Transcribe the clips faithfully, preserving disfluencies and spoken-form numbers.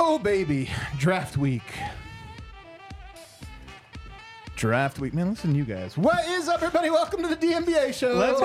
Oh, baby. Draft week. Draft week. Man, listen to you guys. What is up, everybody? Welcome to the D N B A show. Let's go.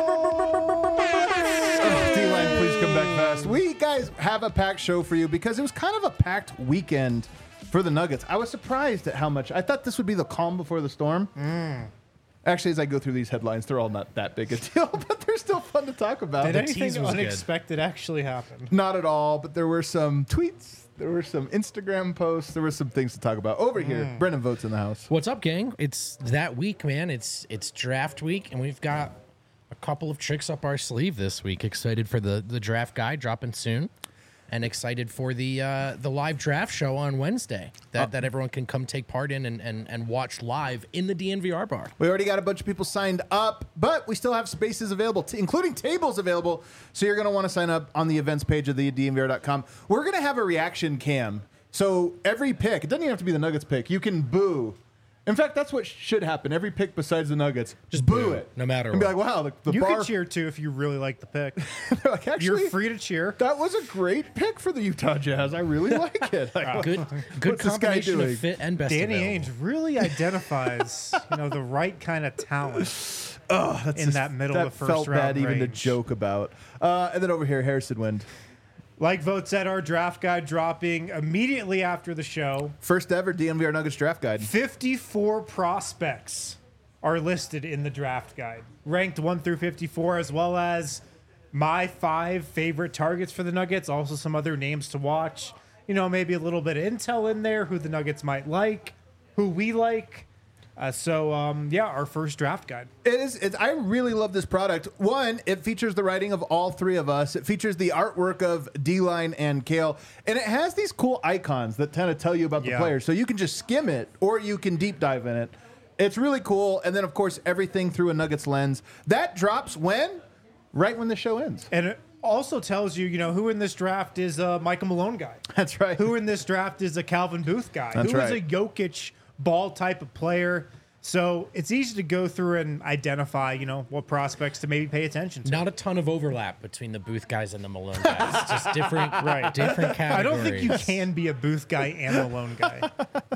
Oh, D-Line, please come back fast. We, guys, have a packed show for you because it was kind of a packed weekend for the Nuggets. I was surprised at how much. I thought this would be the calm before the storm. Mm. Actually, as I go through these headlines, they're all not that big a deal, but they're still fun to talk about. Did The anything tease was good. unexpected actually happen? Not at all, but there were some tweets. There were some Instagram posts. There were some things to talk about. Over here, Mm. Brendan Votes in the house. What's up, gang? It's that week, man. It's it's draft week, and we've got a couple of tricks up our sleeve this week. Excited for the, the draft guide dropping soon, and excited for the uh, the live draft show on Wednesday that, Oh. that everyone can come take part in and, and, and watch live in the D N V R bar. We already got a bunch of people signed up, but we still have spaces available, t- including tables available. So you're going to want to sign up on the events page of the D N V R dot com. We're going to have a reaction cam. So every pick, it doesn't even have to be the Nuggets pick. You can boo. In fact, that's what should happen. Every pick besides the Nuggets, just boo, boo, it. no matter And be what. like, wow, the, the You bar. can cheer too if you really like the pick. They're like, actually, You're free to cheer. that was a great pick for the Utah Jazz. I really like it. Like, Good good What's this guy combination doing? of fit and best Danny available. Ainge really identifies, you know, the right kind of talent. Oh, that's in that middle that of the first felt bad round even to range. joke about. Uh, and then over here, Harrison Wind. Like Vote said, our draft guide dropping immediately after the show. First ever D N V R Nuggets draft guide. fifty-four prospects are listed in the draft guide, ranked one through fifty-four, as well as my five favorite targets for the Nuggets. Also, some other names to watch. You know, maybe a little bit of intel in there, who the Nuggets might like, who we like. Uh, so, um, yeah, our first draft guide. It is. It's, I really love this product. One, it features the writing of all three of us. It features the artwork of D-Line and Kale, and it has these cool icons that kind of tell you about the Yeah. players. So you can just skim it, or you can deep dive in it. It's really cool. And then, of course, everything through a Nuggets lens. That drops when? Right when the show ends. And it also tells you, you know, who in this draft is a Michael Malone guy. That's right. Who in this draft is a Calvin Booth guy? That's Who is right. a Jokic ball type of player? So it's easy to go through and identify, you know, what prospects to maybe pay attention to. Not a ton of overlap between the Booth guys and the Malone guys. It's just different, Right. different I categories. don't think you can be a Booth guy and a Malone guy.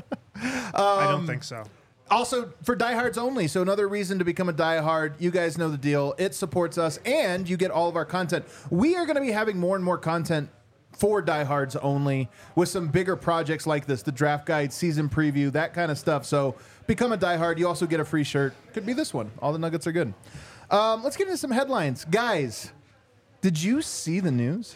I don't think so. Also, for diehards only, so another reason to become a diehard. You guys know the deal. It supports us, and you get all of our content. We are going to be having more and more content for diehards only with some bigger projects like this, the draft guide, season preview, that kind of stuff. So become a diehard. You also get a free shirt. Could be this one. All the Nuggets are good. Um, let's get into some headlines. Guys, did you see the news?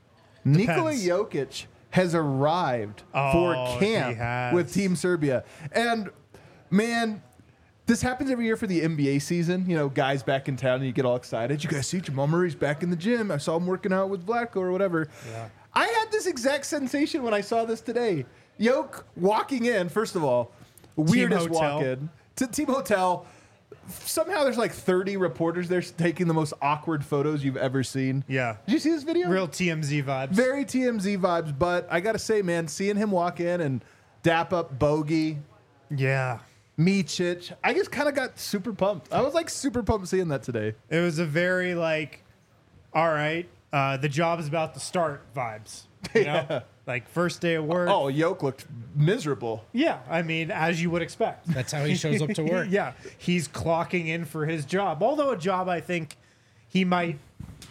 Nikola Jokic has arrived Oh, for he camp has. with Team Serbia. And man, this happens every year for the N B A season. You know, guys back in town and you get all excited. You guys see Jamal Murray's back in the gym. I saw him working out with Vlatko or whatever. Yeah. I had this exact sensation when I saw this today. Yoke walking in, first of all, weirdest Hotel. walk in to Team Hotel. Somehow there's like thirty reporters there taking the most awkward photos you've ever seen. Yeah. Did you see this video? Real T M Z vibes. Very T M Z vibes, but I got to say, man, seeing him walk in and dap up Bogey, Yeah. Micic, I just kind of got super pumped. I was like super pumped seeing that today. It was a very like, all right, uh, the job is about to start vibes. You know? Yeah. Like first day of work. Oh, Yoke looked miserable. Yeah, I mean, as you would expect. That's how he shows up to work. Yeah, he's clocking in for his job. Although a job I think he might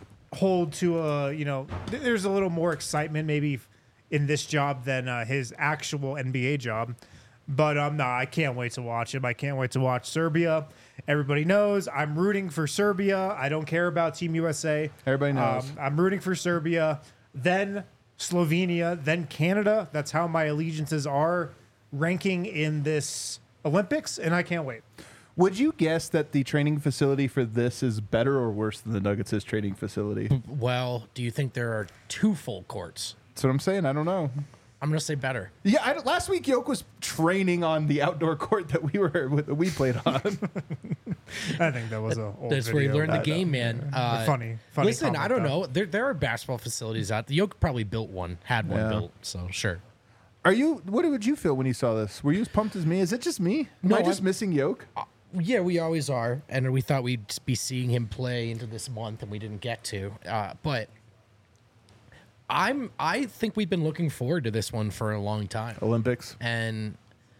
hold to a, you know, th- there's a little more excitement maybe in this job than uh, his actual N B A job. But um, no, I can't wait to watch him. I can't wait to watch Serbia. Everybody knows I'm rooting for Serbia. I don't care about Team U S A. Everybody knows. Um, I'm rooting for Serbia. Then Slovenia, then Canada. That's how my allegiances are ranking in this Olympics, and I can't wait. Would you guess that the training facility for this is better or worse than the Nuggets' training facility? Well, do you think there are two full courts? That's what I'm saying. I don't know. I'm going to say better. Yeah, I, last week Yoke was training on the outdoor court that we were that we played on. I think that was a old That's where you video. learn the game, man. Uh, funny, funny. Listen, I don't comment, know. There, there are basketball facilities out there. Yoke probably built one, had one Yeah. built, so sure. Are you? What did you feel when you saw this? Were you as pumped as me? Is it just me? Am No, I just I'm- missing Yoke? Yeah, we always are, and we thought we'd be seeing him play into this month, and we didn't get to. Uh, but I'm. I think we've been looking forward to this one for a long time, Olympics. and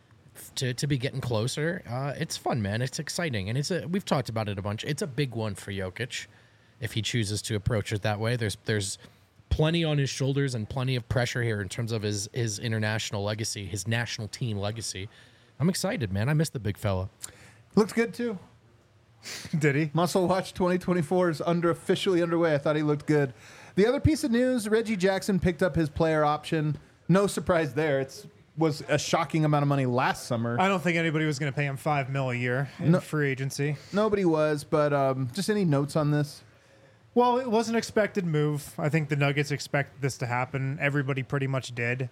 to to be getting closer, uh, it's fun, man. It's exciting, and it's a. We've talked about it a bunch. It's a big one for Jokic, if he chooses to approach it that way. There's there's plenty on his shoulders and plenty of pressure here in terms of his his international legacy, his national team legacy. I'm excited, man. I miss the big fella. Looks good too. Did he? Muscle Watch twenty twenty-four is under officially underway. I thought he looked good. The other piece of news, Reggie Jackson picked up his player option. No surprise there. It's was a shocking amount of money last summer. I don't think anybody was going to pay him five mil a year in No. free agency. Nobody was, but um, just any notes on this? Well, it was an expected move. I think the Nuggets expected this to happen. Everybody pretty much did.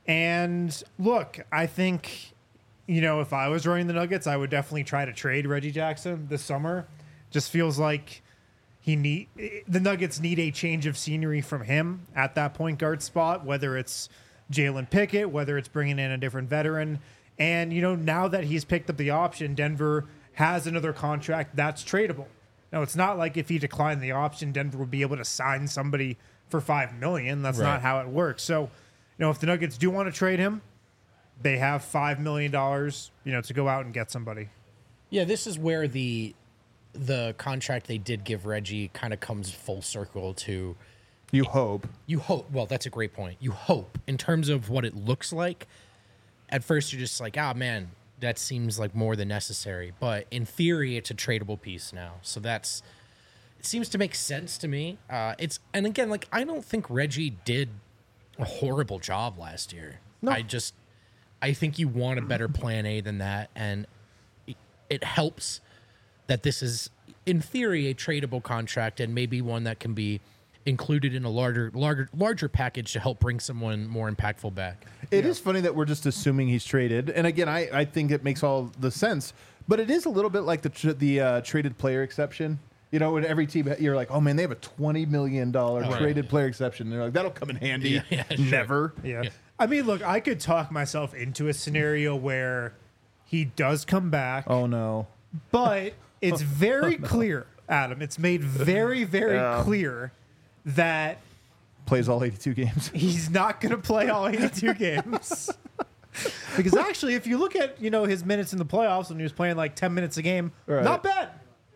And look, I think, you know, if I was running the Nuggets, I would definitely try to trade Reggie Jackson this summer. Just feels like he need the Nuggets need a change of scenery from him at that point guard spot, whether it's Jalen Pickett, whether it's bringing in a different veteran. And, you know, now that he's picked up the option, Denver has another contract that's tradable. Now, it's not like if he declined the option, Denver would be able to sign somebody for five million dollars. That's Right. not how it works. So, you know, if the Nuggets do want to trade him, they have five million dollars, you know, to go out and get somebody. Yeah, this is where the the contract they did give Reggie kind of comes full circle to. You hope. You hope. Well, that's a great point. You hope in terms of what it looks like. At first, you're just like, ah, man, that seems like more than necessary. But in theory, it's a tradable piece now. So that's it seems to make sense to me. Uh, it's and again, like I don't think Reggie did a horrible job last year. No. I just I think you want a better plan A than that, and it, it helps that this is in theory a tradable contract and maybe one that can be included in a larger larger larger package to help bring someone more impactful back. It is funny that we're just assuming he's traded, and again, I, I think it makes all the sense. But it is a little bit like the tr- the uh, traded player exception. You know, when every team you're like, oh man, they have a twenty million dollar right. traded player exception. And they're like, that'll come in handy. Yeah, yeah, sure. Never. Yeah. I mean, look, I could talk myself into a scenario where he does come back, Oh no. but it's very clear, Adam. It's made very, very Yeah. clear that Plays all eighty-two games. he's not going to play all eighty-two games. Because actually, if you look at, you know, his minutes in the playoffs when he was playing like ten minutes a game, Right. not bad.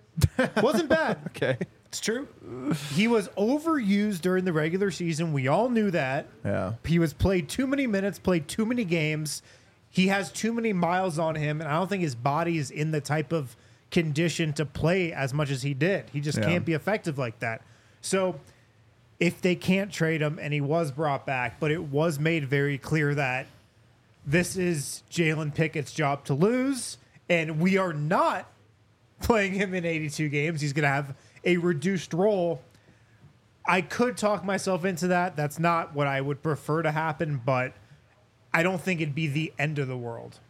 Wasn't bad. Okay. It's true. He was overused during the regular season. We all knew that. Yeah. He was played too many minutes, played too many games. He has too many miles on him, and I don't think his body is in the type of condition to play as much as he did. He just Yeah. can't be effective like that. So if they can't trade him, and he was brought back, but it was made very clear that this is Jalen Pickett's job to lose, and we are not playing him in eighty-two games. He's going to have a reduced role. I could talk myself into that. That's not what I would prefer to happen, but I don't think it'd be the end of the world.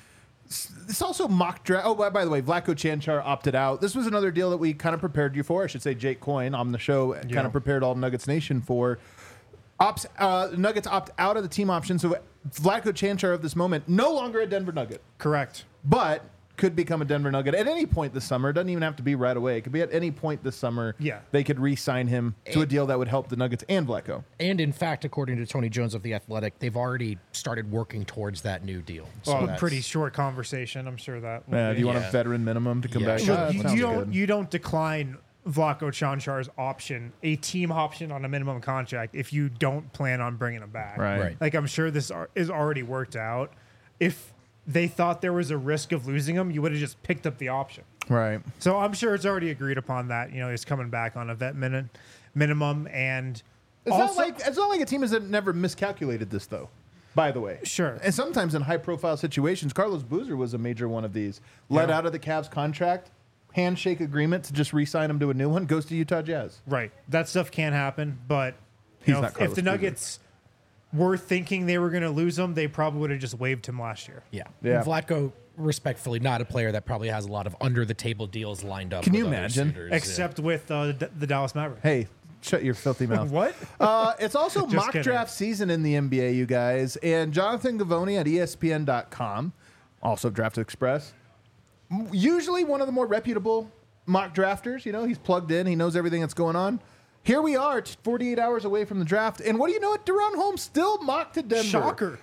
It's also mock draft. Oh, by, by the way, Vlatko Chanchar opted out. This was another deal that we kind of prepared you for. I should say Jake Coyne on the show Yeah. kind of prepared all Nuggets Nation for. Opts, uh, Nuggets opt out of the team option. So Vlatko Chanchar of this moment, no longer a Denver Nugget, Correct. but could become a Denver Nugget at any point this summer. It doesn't even have to be right away. It could be at any point this summer. Yeah. They could re-sign him to a deal that would help the Nuggets and Vlatko. And in fact, according to Tony Jones of The Athletic, they've already started working towards that new deal. So Well, that's- pretty short conversation. I'm sure that. will Uh, be. do you want Yeah. a veteran minimum to come Yeah, back? sure. Ah, Look, that you, sounds you don't good. you don't decline Vlatko Chanchar's option, a team option on a minimum contract, if you don't plan on bringing him back. Right. Right. Like I'm sure this ar- is already worked out. If they thought there was a risk of losing him, you would have just picked up the option. Right. So I'm sure it's already agreed upon that, you know, he's coming back on a vet min- minimum. And It's also, not like it's not like a team has never miscalculated this, though. By the way, Sure. And sometimes in high-profile situations, Carlos Boozer was a major one of these. Let Yeah. out of the Cavs contract, handshake agreement to just re-sign him to a new one, goes to Utah Jazz. right, that stuff can happen. But you He's know, not if, if Carlos the Boozer. Nuggets were thinking they were going to lose him, they probably would have just waived him last year. Yeah. Yeah. Vlatko, respectfully, not a player that probably has a lot of under the table deals lined up. Can with you other imagine? suitors, yeah. Except with uh, the, the Dallas Mavericks. Hey, shut your filthy mouth. What? Uh, it's also Just mock kidding. draft season in the N B A, you guys. And Jonathan Gavoni at E S P N dot com, also Draft Express, m- usually one of the more reputable mock drafters. You know, he's plugged in. He knows everything that's going on. here we are, t- forty-eight hours away from the draft. And what do you know? It Deron Holmes still mocked to Denver. Shocker.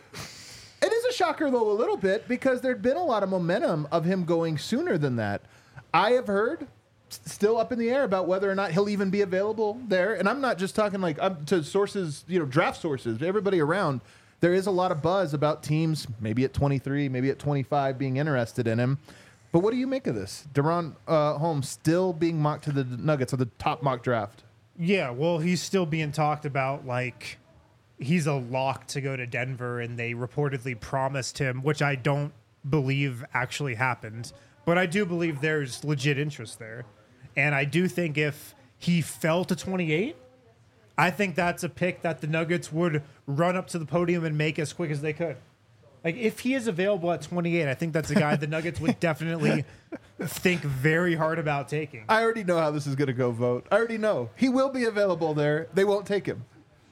It is a shocker, though, a little bit, because there'd been a lot of momentum of him going sooner than that. I have heard, s- still up in the air, about whether or not he'll even be available there. And I'm not just talking like um, to sources, you know, draft sources, everybody around. There is a lot of buzz about teams, maybe at twenty-three, maybe at twenty-five, being interested in him. But what do you make of this? Deron uh, Holmes still being mocked to the Nuggets of the top mock draft. Yeah, well, he's still being talked about like he's a lock to go to Denver, and they reportedly promised him, which I don't believe actually happened. But I do believe there's legit interest there. And I do think if he fell to twenty-eight, I think that's a pick that the Nuggets would run up to the podium and make as quick as they could. Like, if he is available at twenty-eight, I think that's a guy the Nuggets would definitely think very hard about taking. I already know how this is going to go, vote. I already know. He will be available there. They won't take him.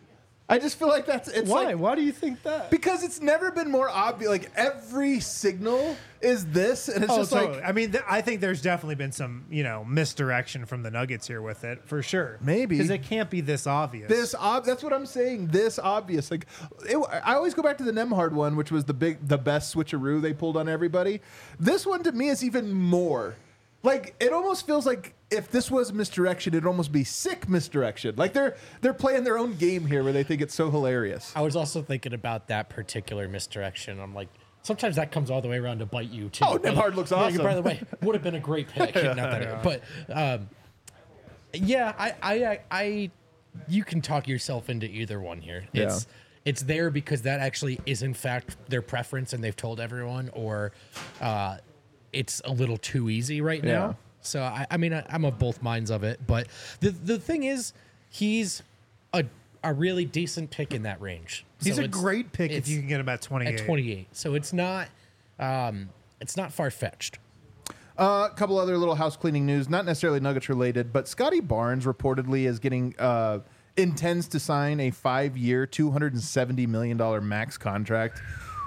I just feel like that's it's Why? like Why do you think that? because it's never been more obvious. Like every signal is this, and it's Oh, just totally. like I mean, th- I think there's definitely been some, you know, misdirection from the Nuggets here with it, for sure. Maybe. Because it can't be this obvious. this. Ob- that's what I'm saying. This obvious. Like it, I always go back to the Nemhard one, which was the big, the best switcheroo they pulled on everybody. This one to me is even more. Like it almost feels like if this was misdirection, it'd almost be sick misdirection. Like they're they're playing their own game here, where they think it's so hilarious. I was also thinking about that particular misdirection. I'm like, sometimes that comes all the way around to bite you too. Oh, But- Nemhard looks Yeah, awesome. By the way, would have been a great pick. Not that it- but um, yeah, I, I, I, I, you can talk yourself into either one here. It's it's there because that actually is in fact their preference, and they've told everyone, or uh, it's a little too easy right now. Yeah. So I, I mean, I, I'm of both minds of it. But the the thing is, he's a a really decent pick in that range. He's So a it's- great pick if it's you can get him at twenty-eight. at twenty-eight. So it's not um, it's not far fetched. Uh, a couple other little house cleaning news, not necessarily Nuggets related, but Scotty Barnes reportedly is getting uh, intends to sign a five-year, two hundred seventy million dollars max contract.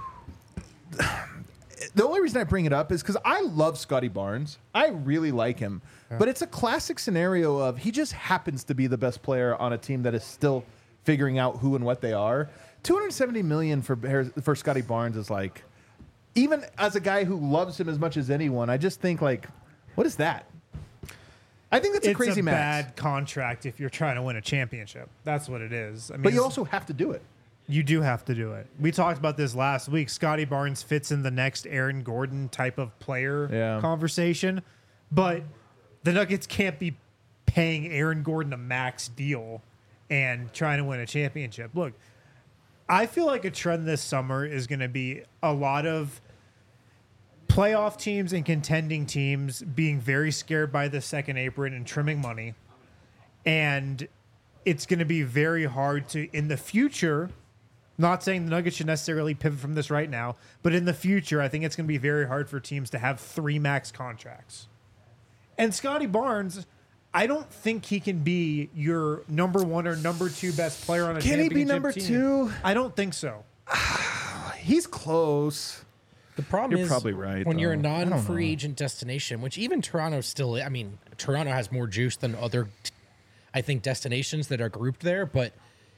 The only reason I bring it up is because I love Scotty Barnes. I really like him, but it's a classic scenario of he just happens to be the best player on a team that is still figuring out who and what they are. two hundred seventy million dollars for for Scotty Barnes is like. Even as a guy who loves him as much as anyone, I just think like, what is that? I think that's a It's crazy a max. bad contract if you're trying to win a championship. That's what it is. I mean, But you it's- also have to do it. You do have to do it. We talked about this last week. Scotty Barnes fits in the next Aaron Gordon type of player Yeah. conversation, but the Nuggets can't be paying Aaron Gordon a max deal and trying to win a championship. Look, I feel like a trend this summer is going to be a lot of playoff teams and contending teams being very scared by the second apron and trimming money. And it's going to be very hard to, in the future, not saying the Nuggets should necessarily pivot from this right now, but in the future, I think it's going to be very hard for teams to have three max contracts. And Scotty Barnes, I don't think he can be your number one or number two best player on a Can he championship be number team. two? I don't think so. He's close. The problem You're is probably right, when you're a though. I don't non-free know. agent destination, which even Toronto still. I mean, Toronto has more juice than other, I think, destinations that are grouped there. But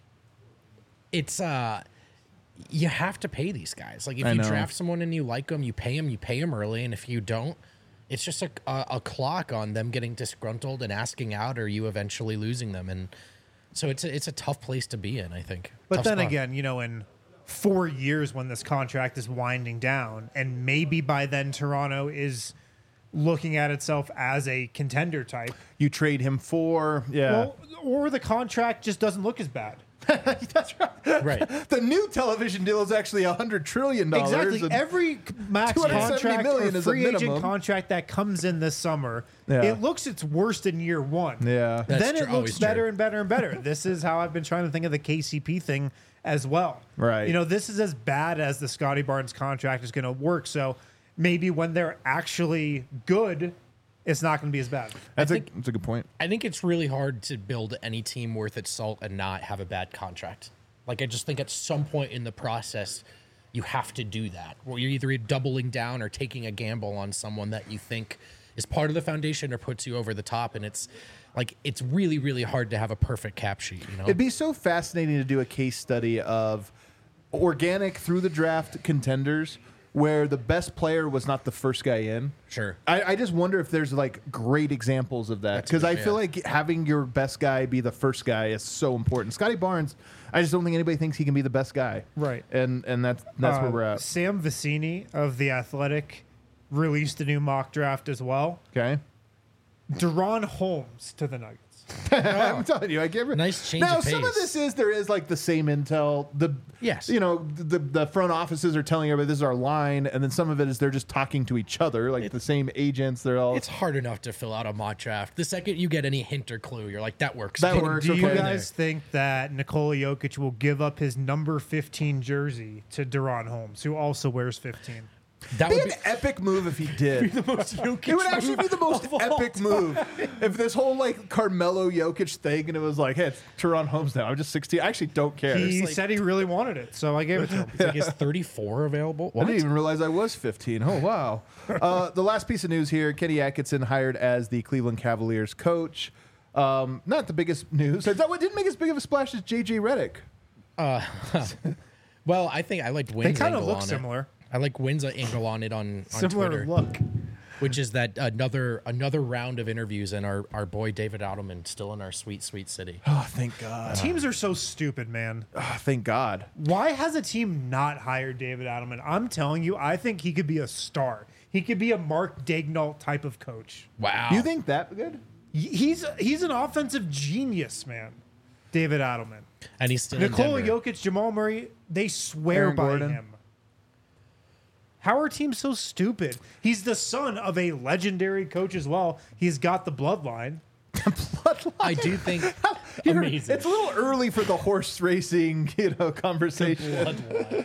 it's uh, you have to pay these guys. Like if I you know. draft someone and you like them, you pay them. You pay them early, and if you don't, it's just a, a, a clock on them getting disgruntled and asking out, or you eventually losing them. And so it's a, it's a tough place to be in, I think. But Tough then spot. again, you know, in four years when this contract is winding down, and maybe by then Toronto is looking at itself as a contender type, You trade him for yeah. well, or the contract just doesn't look as bad. That's right. Right. The new television deal is actually a hundred trillion dollars. Exactly. and- Every max two hundred seventy contract million or is a free agent minimum. contract that comes in this summer, Yeah. it looks its worst in year one. yeah. That's then tr- it looks always better true. and better and better. This is how I've been trying to think of the K C P thing as well. Right. You know, this is as bad as the Scotty Barnes contract is going to work. So maybe when they're actually good, it's not going to be as bad. That's a think- that's a good point. I think it's really hard to build any team worth its salt and not have a bad contract. Like, I just think at some point in the process, you have to do that. Where you're either doubling down or taking a gamble on someone that you think is part of the foundation or puts you over the top. And it's like it's really, really hard to have a perfect cap sheet. You know, It'd be so fascinating to do a case study of organic through the draft contenders where the best player was not the first guy in. Sure. I, I just wonder if there's like great examples of that That's because good, I feel yeah. like having your best guy be the first guy is so important. Scotty Barnes, I just don't think anybody thinks he can be the best guy. Right. And and that's that's Uh, where we're at. Sam Vicini of The Athletic released a new mock draft as well. Okay. Deron Holmes to the Nuggets. I'm telling you, I give it. Nice change Now, of some of pace. this is there is like the same intel. The Yes. you know, the the front offices are telling everybody this is our line, and then some of it is they're just talking to each other, like the same agents. They're all It's hard enough to fill out a mock draft. The second you get any hint or clue, you're like, that works. That Put- works. Do you okay. guys think that Nikola Jokic will give up his number fifteen jersey to Deron Holmes, who also wears fifteen? That It'd would be be an epic move if he did. most Jokic It would actually be the most of all epic move if this whole like Carmelo Jokic thing, and it was like, hey, it's Teron Holmes now. I'm just sixteen. I actually don't care. He like- said he really wanted it, so I gave it to him. It's like, is thirty-four available? I What? didn't even realize I was fifteen. Oh, wow. uh, the last piece of news here, Kenny Atkinson hired as the Cleveland Cavaliers coach. Um, not the biggest news. That what didn't make as big of a splash as J J Redick. Well, I think I liked They Wynn's kind of angle look on similar. it. I like Wynn's angle on it on, on Similar Twitter, look. which is that another another round of interviews, and our, our boy David Adelman still in our sweet, sweet city. Oh, thank God. Teams are so stupid, man. Oh, thank God. Why has a team not hired David Adelman? I'm telling you, I think he could be a star. He could be a Mark Daignault type of coach. Wow. You think that good? He's he's an offensive genius, man. David Adelman. And he's still Nikola in Denver. Jokic, Jamal Murray, they swear Aaron by Gordon. him. How are teams so stupid? He's the son of a legendary coach as well. He's got the bloodline. I do think You're- amazing. It's a little early for the horse racing, you know, conversation.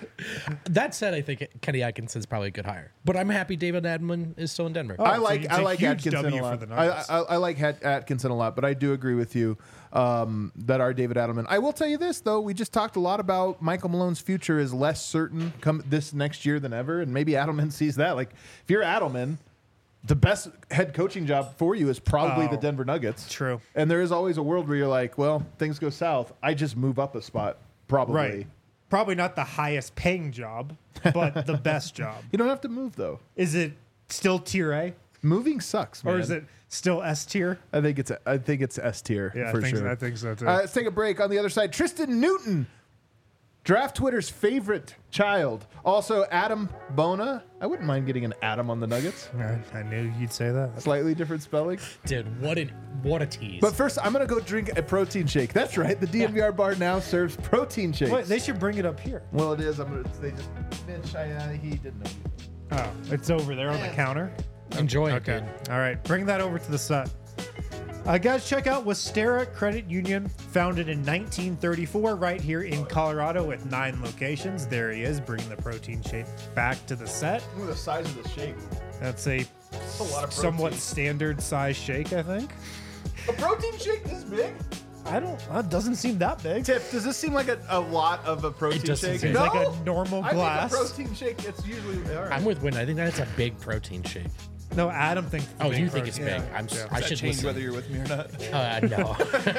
That said, I think Kenny Atkinson's probably a good hire. But I'm happy David Adelman is still in Denver. I so like it's I a like huge Atkinson W a for lot. the I, Nuggets. I, I like Hat- Atkinson a lot, but I do agree with you um, that our David Adelman. I will tell you this though: we just talked a lot about Michael Malone's future is less certain come this next year than ever, and maybe Adelman sees that. Like if you're Adelman, the best head coaching job for you is probably Oh, the Denver Nuggets. true. And there is always a world where you're like, well, things go south. I just move up a spot, probably. Right. Probably not the highest paying job, but the best job. You don't have to move though. Is it still tier A? Moving sucks, man. Or is it still S tier? I think it's I think it's S tier Yeah, for I think, sure. I think so too. Uh, let's take a break. On the other side, Tristan Newton, Draft Twitter's favorite child. Also, Adam Bona. I wouldn't mind getting an Adam on the Nuggets. I, I knew you'd say that. Slightly different spelling. Dude, what an what a tease. But first, I'm going to go drink a protein shake. That's right. The D N V R bar now serves protein shakes. Wait, they should bring it up here. well, it is. I'm gonna, they just, Mitch, I, uh, he didn't know. Oh, it's over there on the counter. Enjoy it, Okay. dude. All right. Bring that over to the set. Uh, guys, check out Westera Credit Union, founded in nineteen thirty-four, right here in Colorado with nine locations. There he is, bringing the protein shake back to the set. Look at the size of the shake. That's a, a lot of somewhat protein. standard size shake, I think. A protein shake this big? I don't. That doesn't seem that big. Tiff, does this seem like a, a lot of a protein doesn't shake? seem- It's like a normal I glass. think a protein shake, it's usually all right. I'm with Wynn. I think that's a big protein shake. No, Adam thinks. it's a Oh, big you think it's protein. big? Yeah. I'm. s- Yeah. I should change listen. whether you're with me or not. Uh, no.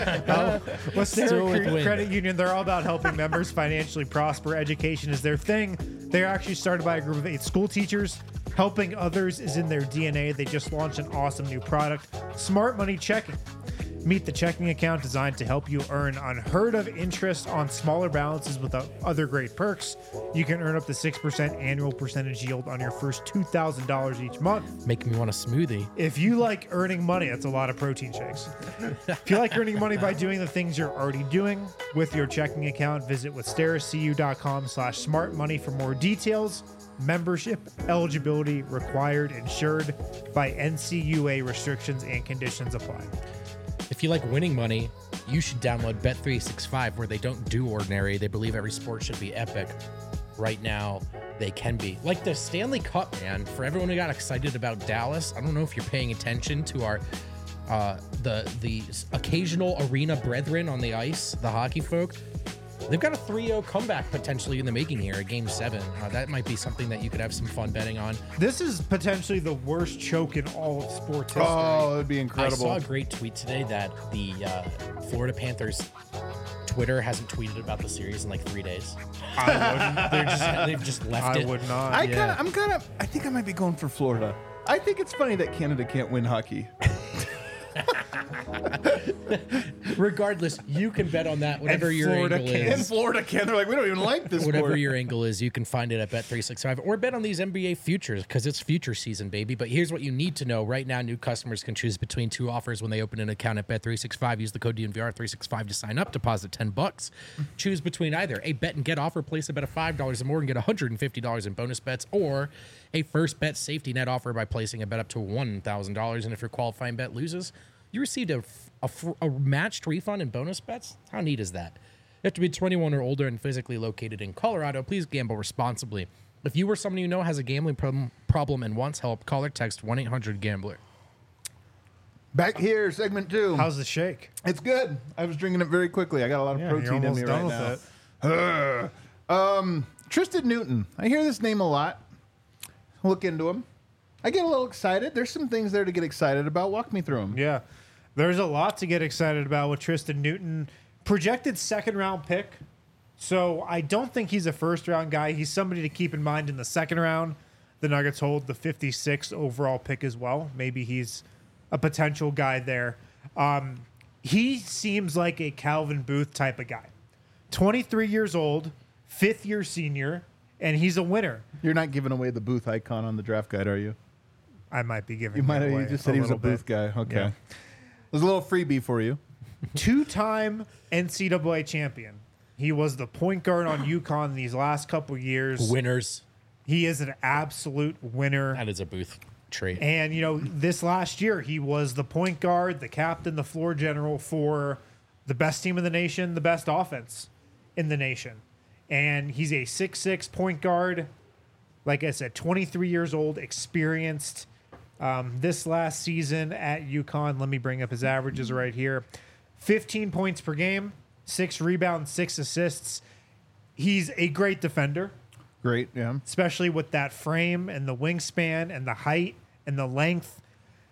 Westera Still with Cre- Wynn. Credit Union, they're all about helping members financially prosper. Education is their thing. They're actually started by a group of eight school teachers. Helping others is in their D N A. They just launched an awesome new product, Smart Money Checking. Meet the checking account designed to help you earn unheard of interest on smaller balances with o- other great perks. You can earn up to six percent annual percentage yield on your first two thousand dollars each month. Making me want a smoothie. If you like earning money, that's a lot of protein shakes. If you like earning money by doing the things you're already doing with your checking account, visit withsterracu.com slash smart money for more details. Membership eligibility required, insured by N C U A restrictions and conditions apply. If you like winning money, you should download Bet three sixty-five, where they don't do ordinary. They believe every sport should be epic. Right now, they can be. Like the Stanley Cup, man. For everyone who got excited about Dallas, I don't know if you're paying attention to our uh, the the occasional arena brethren on the ice, the hockey folk. They've got a three oh comeback potentially in the making here at Game seven. Uh, that might be something that you could have some fun betting on. This is potentially the worst choke in all of sports history. Oh, it'd be I incredible. saw a great tweet today that the uh, Florida Panthers Twitter hasn't tweeted about the series in like three days. I wouldn't. They're just, they've just left I it. would not. I Yeah. kind of, I'm kind of, I think I might be going for Florida. I think it's funny that Canada can't win hockey. Regardless, you can bet on that. Whatever And your Florida angle can. And is. Florida can. They're like, we don't even like this Whatever sport. your angle is, you can find it at Bet three sixty-five or bet on these N B A futures because it's future season, baby. But here's what you need to know. Right now, new customers can choose between two offers when they open an account at Bet three sixty-five. Use the code D N V R three sixty-five to sign up. Deposit ten bucks. Choose between either a bet and get offer. Place a bet of five dollars or more and get one hundred fifty dollars in bonus bets, or a first bet safety net offer by placing a bet up to one thousand dollars. And if your qualifying bet loses, you received a, a, a matched refund and bonus bets. How neat is that? You have to be twenty-one or older and physically located in Colorado. Please gamble responsibly. If you or someone you know has a gambling problem, problem and wants help, call or text one eight hundred gambler. Back here, segment two. How's the shake? It's good. I was drinking it very quickly. I got a lot of Yeah, you're protein in almost me done right with now. it. um, Tristan Newton. I hear this name a lot. Look into him. I get a little excited. There's some things there to get excited about. Walk me through them. Yeah. There's a lot to get excited about with Tristan Newton. Projected second round pick. So I don't think he's a first round guy. He's somebody to keep in mind in the second round. The Nuggets hold the fifty-sixth overall pick as well. Maybe he's a potential guy there. Um, he seems like a Calvin Booth type of guy. twenty-three years old, fifth year senior, and he's a winner. You're not giving away the Booth icon on the draft guide, are you? I might be giving You might it have. away You just said he was a little Booth bit. guy. Okay. Yeah. There's a little freebie for you. Two-time N C double A champion. He was the point guard on UConn these last couple years. Winners. He is an absolute winner. That is a Booth trait. And, you know, this last year, he was the point guard, the captain, the floor general for the best team in the nation, the best offense in the nation. And he's a six six point guard. Like I said, twenty-three years old, experienced. Um, this last season at UConn, let me bring up his averages right here. fifteen points per game, six rebounds, six assists. He's a great defender, Great. Yeah. especially with that frame and the wingspan and the height and the length.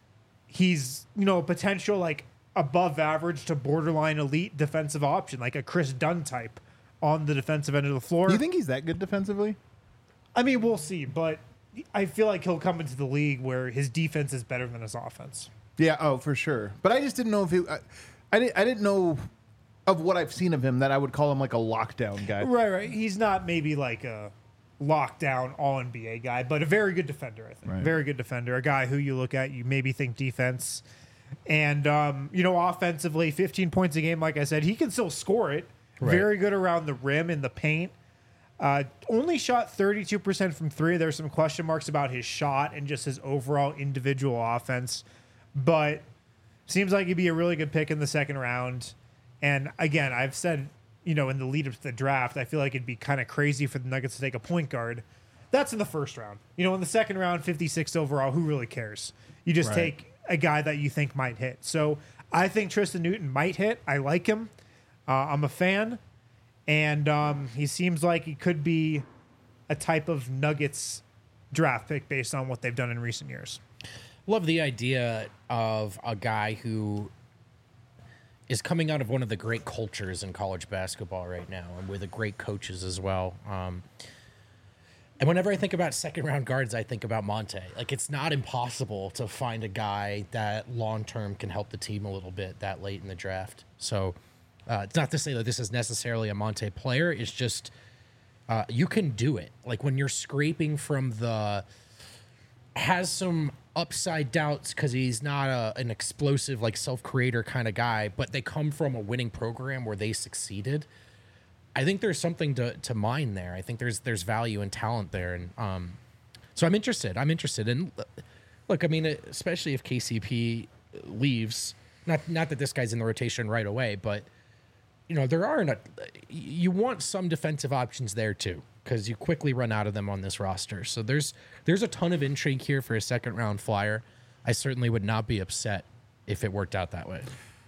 He's, you know, a potential like above average to borderline elite defensive option, like a Chris Dunn type on the defensive end of the floor. Do you think he's that good defensively? I mean, we'll see, but I feel like he'll come into the league where his defense is better than his offense. Yeah. Oh, for sure. But I just didn't know if he. I, I didn't. I didn't know of what I've seen of him that I would call him like a lockdown guy. Right, right. He's not maybe like a lockdown all N B A guy, but a very good defender, I think. Right. Very good defender. A guy who you look at, you maybe think defense. And, um, you know, offensively, fifteen points a game, like I said, he can still score it. Right. Very good around the rim in the paint. Uh, only shot thirty-two percent from three. There's some question marks about his shot and just his overall individual offense. But seems like he'd be a really good pick in the second round. And again, I've said, you know, in the lead up to the draft, I feel like it'd be kind of crazy for the Nuggets to take a point guard. That's in the first round. You know, in the second round, fifty-six overall, who really cares? You just Right. take a guy that you think might hit. So I think Tristan Newton might hit. I like him. Uh, I'm a fan. And um, he seems like he could be a type of Nuggets draft pick based on what they've done in recent years. Love the idea of a guy who is coming out of one of the great cultures in college basketball right now, and with the great coaches as well. Um, and whenever I think about second round guards, I think about Monte. Like, it's not impossible to find a guy that long term can help the team a little bit that late in the draft. So uh, it's not to say that this is necessarily a Monte player. It's just uh, you can do it. Like, when you're scraping from the has some upside doubts because he's not a, an explosive, like, self-creator kind of guy, but they come from a winning program where they succeeded. I think there's something to, to mine there. I think there's there's value and talent there. And um, so I'm interested. I'm interested. And look, I mean, especially if K C P leaves, not not that this guy's in the rotation right away, but, you know, there are not, you want some defensive options there too, because you quickly run out of them on this roster. So there's there's a ton of intrigue here for a second round flyer. I certainly would not be upset if it worked out that way.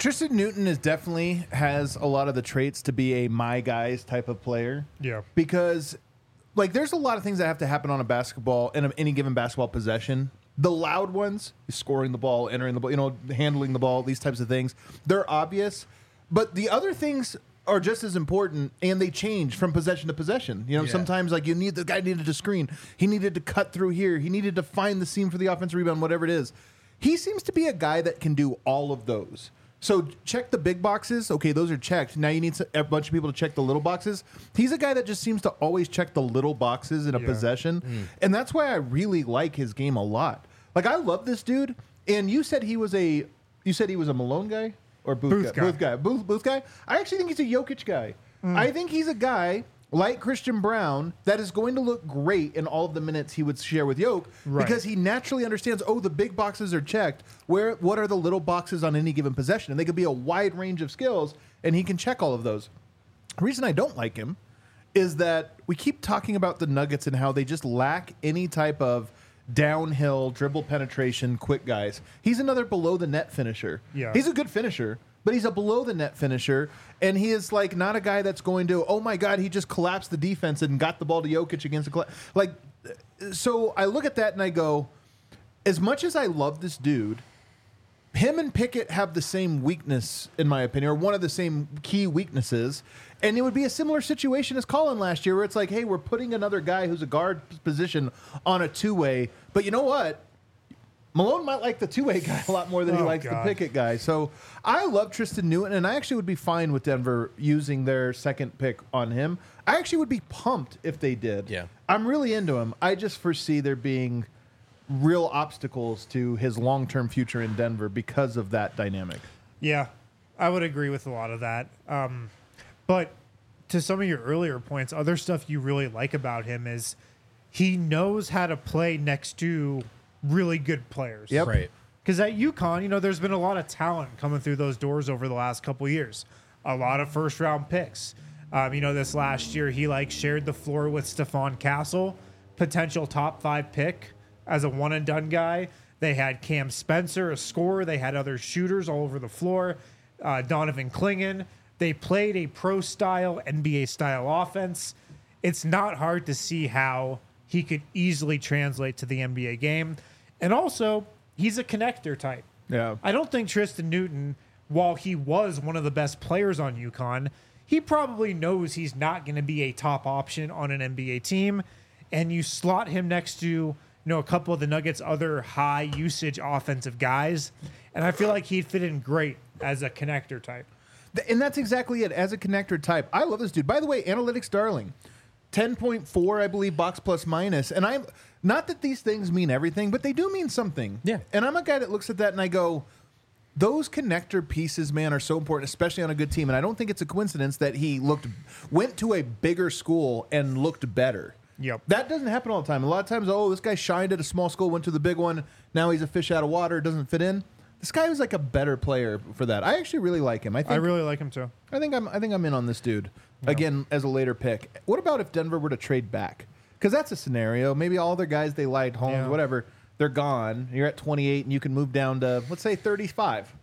Tristan Newton is definitely has a lot of the traits to be a my guys type of player. Yeah. Because, like, there's a lot of things that have to happen on a basketball, in a, any given basketball possession. The loud ones, scoring the ball, entering the ball, you know, handling the ball, these types of things, they're obvious. But the other things are just as important, and they change from possession to possession. You know, Yeah. sometimes, like, you need, the guy needed to screen. He needed to cut through here. He needed to find the seam for the offensive rebound, whatever it is. He seems to be a guy that can do all of those. So check the big boxes. Okay, those are checked. Now you need a bunch of people to check the little boxes. He's a guy that just seems to always check the little boxes in a Yeah. possession. And that's why I really like his game a lot. Like, I love this dude. And you said he was a you said he was a Malone guy or Booth, Booth guy? guy. Booth guy. Booth, Booth guy. I actually think he's a Jokic guy. I think he's a guy like Christian Brown that is going to look great in all of the minutes he would share with Jokic Right. because he naturally understands, oh, the big boxes are checked. Where what are the little boxes on any given possession? And they could be a wide range of skills, and he can check all of those. The reason I don't like him is that we keep talking about the Nuggets and how they just lack any type of downhill dribble penetration, quick guys. He's another below the net finisher. Yeah. He's a good finisher, but he's a below the net finisher, and he is like not a guy that's going to, oh my God, he just collapsed the defense and got the ball to Jokic against the colla-. like. So I look at that and I go, as much as I love this dude, him and Pickett have the same weakness, in my opinion, or one of the same key weaknesses. And it would be a similar situation as Colin last year, where it's like, hey, we're putting another guy who's a guard position on a two-way. But you know what? Malone might like the two-way guy a lot more than he Oh, likes God. the Pickett guy. So I love Tristan Newton, and I actually would be fine with Denver using their second pick on him. I actually would be pumped if they did. Yeah. I'm really into him. I just foresee there being real obstacles to his long-term future in Denver because of that dynamic. Yeah, I would agree with a lot of that. Um, but to some of your earlier points, other stuff you really like about him is he knows how to play next to really good players. Yep. Right. Because at UConn, you know, there's been a lot of talent coming through those doors over the last couple years. A lot of first round picks. Um, you know, this last year he like shared the floor with Stephon Castle, potential top five pick as a one and done guy. They had Cam Spencer, a scorer. They had other shooters all over the floor. Uh, Donovan Clingan. They played a pro style, N B A style offense. It's not hard to see how he could easily translate to the N B A game. And also, he's a connector type. Yeah. I don't think Tristan Newton, while he was one of the best players on UConn, he probably knows he's not going to be a top option on an N B A team. And you slot him next to, you know, a couple of the Nuggets' other high usage offensive guys. And I feel like he'd fit in great as a connector type. Th- And that's exactly it. As a connector type, I love this dude. By the way, analytics darling, ten point four, I believe, box plus minus. And I'm not that these things mean everything, but they do mean something. Yeah. And I'm a guy that looks at that and I go, those connector pieces, man, are so important, especially on a good team. And I don't think it's a coincidence that he looked went to a bigger school and looked better. Yep. That doesn't happen all the time. A lot of times, oh, this guy shined at a small school, went to the big one. Now he's a fish out of water, doesn't fit in. This guy was like a better player for that. I actually really like him. I think I really like him too. I think I'm I think I'm in on this dude again as a later pick. What about if Denver were to trade back? Because that's a scenario. Maybe all their guys they liked, Holmes, Yeah. whatever, they're gone. You're at twenty-eight, and you can move down to let's say thirty-five.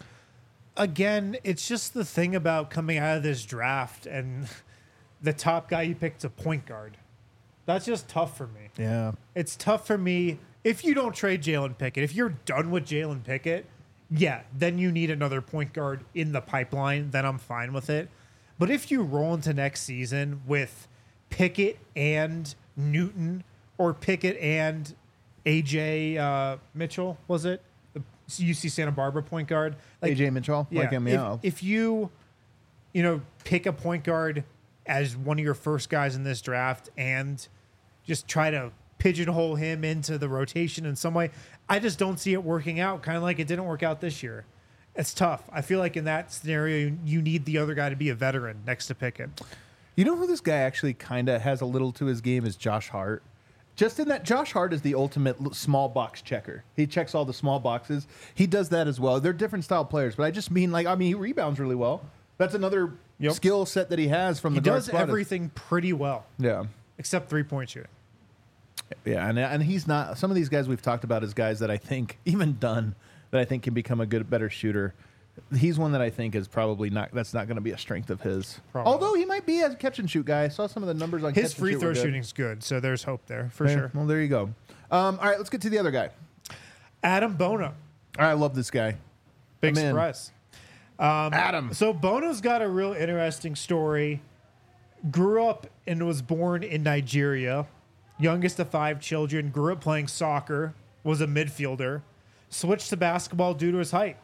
Again, it's just the thing about coming out of this draft and the top guy you picked a point guard. That's just tough for me. Yeah, It's tough for me if you don't trade Jalen Pickett. If you're done with Jalen Pickett, yeah, then you need another point guard in the pipeline. Then I'm fine with it. But if you roll into next season with Pickett and Newton, or Pickett and A J uh, Mitchell, was it the U C Santa Barbara point guard? A J Mitchell, like him, if, yeah. if you, you know, pick a point guard as one of your first guys in this draft and just try to pigeonhole him into the rotation in some way, I just don't see it working out, kind of like it didn't work out this year. It's tough. I feel like in that scenario, you need the other guy to be a veteran next to Pickett. You know who this guy actually kind of has a little to his game is Josh Hart. Just in that, Josh Hart is the ultimate l- small box checker. He checks all the small boxes. He does that as well. They're different style players, but I just mean like I mean he rebounds really well. That's another Yep. skill set that he has from He the guard does spot. everything pretty well, Yeah. except three-point shooting. Yeah, and and he's not. Some of these guys we've talked about as guys that I think even Dunn that I think can become a good, better shooter. He's one that I think is probably not. That's not going to be a strength of his. Probably. Although he might be a catch and shoot guy. I saw some of the numbers on His catch free and shoot throw were good. shooting's good, so there's hope there for Okay, sure. Well, there you go. Um, all right, let's get to the other guy. Adam Bono, I love this guy. big I'm in. surprise. Adam. So Bono's got a real interesting story. Grew up and was born in Nigeria. Youngest of five children. Grew up playing soccer. Was a midfielder. Switched to basketball due to his height.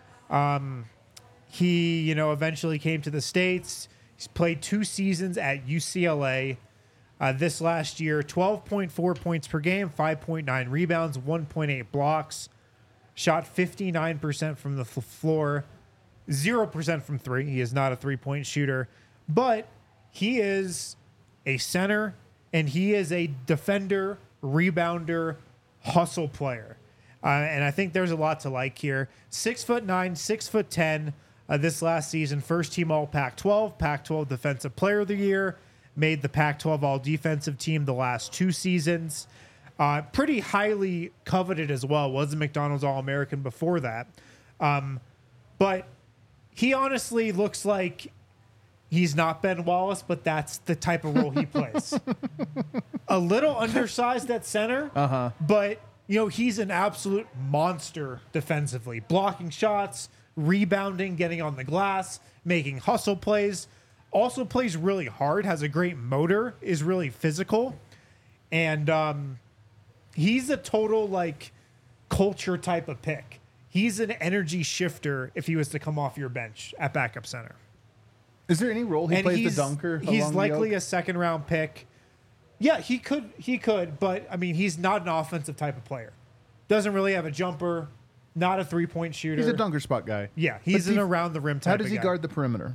Um, he, you know, eventually came to the States. He's played two seasons at U C L A. Uh, this last year, twelve point four points per game, five point nine rebounds, one point eight blocks. Shot fifty-nine percent from the f- floor, zero percent from three. He is not a three-point shooter, but he is a center, and he is a defender, rebounder, hustle player. Uh, and I think there's a lot to like here. Six foot nine, six foot ten. Uh, this last season, first team All Pac twelve, Pac twelve Defensive Player of the Year, made the Pac twelve All Defensive Team the last two seasons. Uh, pretty highly coveted as well. Was a McDonald's All American before that. Um, but he honestly looks like he's not Ben Wallace, but that's the type of role he plays. A little undersized at center, uh-huh. but you know he's an absolute monster defensively, blocking shots, rebounding, getting on the glass, making hustle plays. Also plays really hard, has a great motor, is really physical, and um, he's a total like culture type of pick. He's an energy shifter if he was to come off your bench at backup center. Is there any role he And plays he's, the dunker? he's along the likely oak? a second round pick. Yeah, he could he could, but I mean he's not an offensive type of player. Doesn't really have a jumper, not a three point shooter. He's a dunker spot guy. Yeah, he's But an def- around the rim type. How does of he guy. guard the perimeter?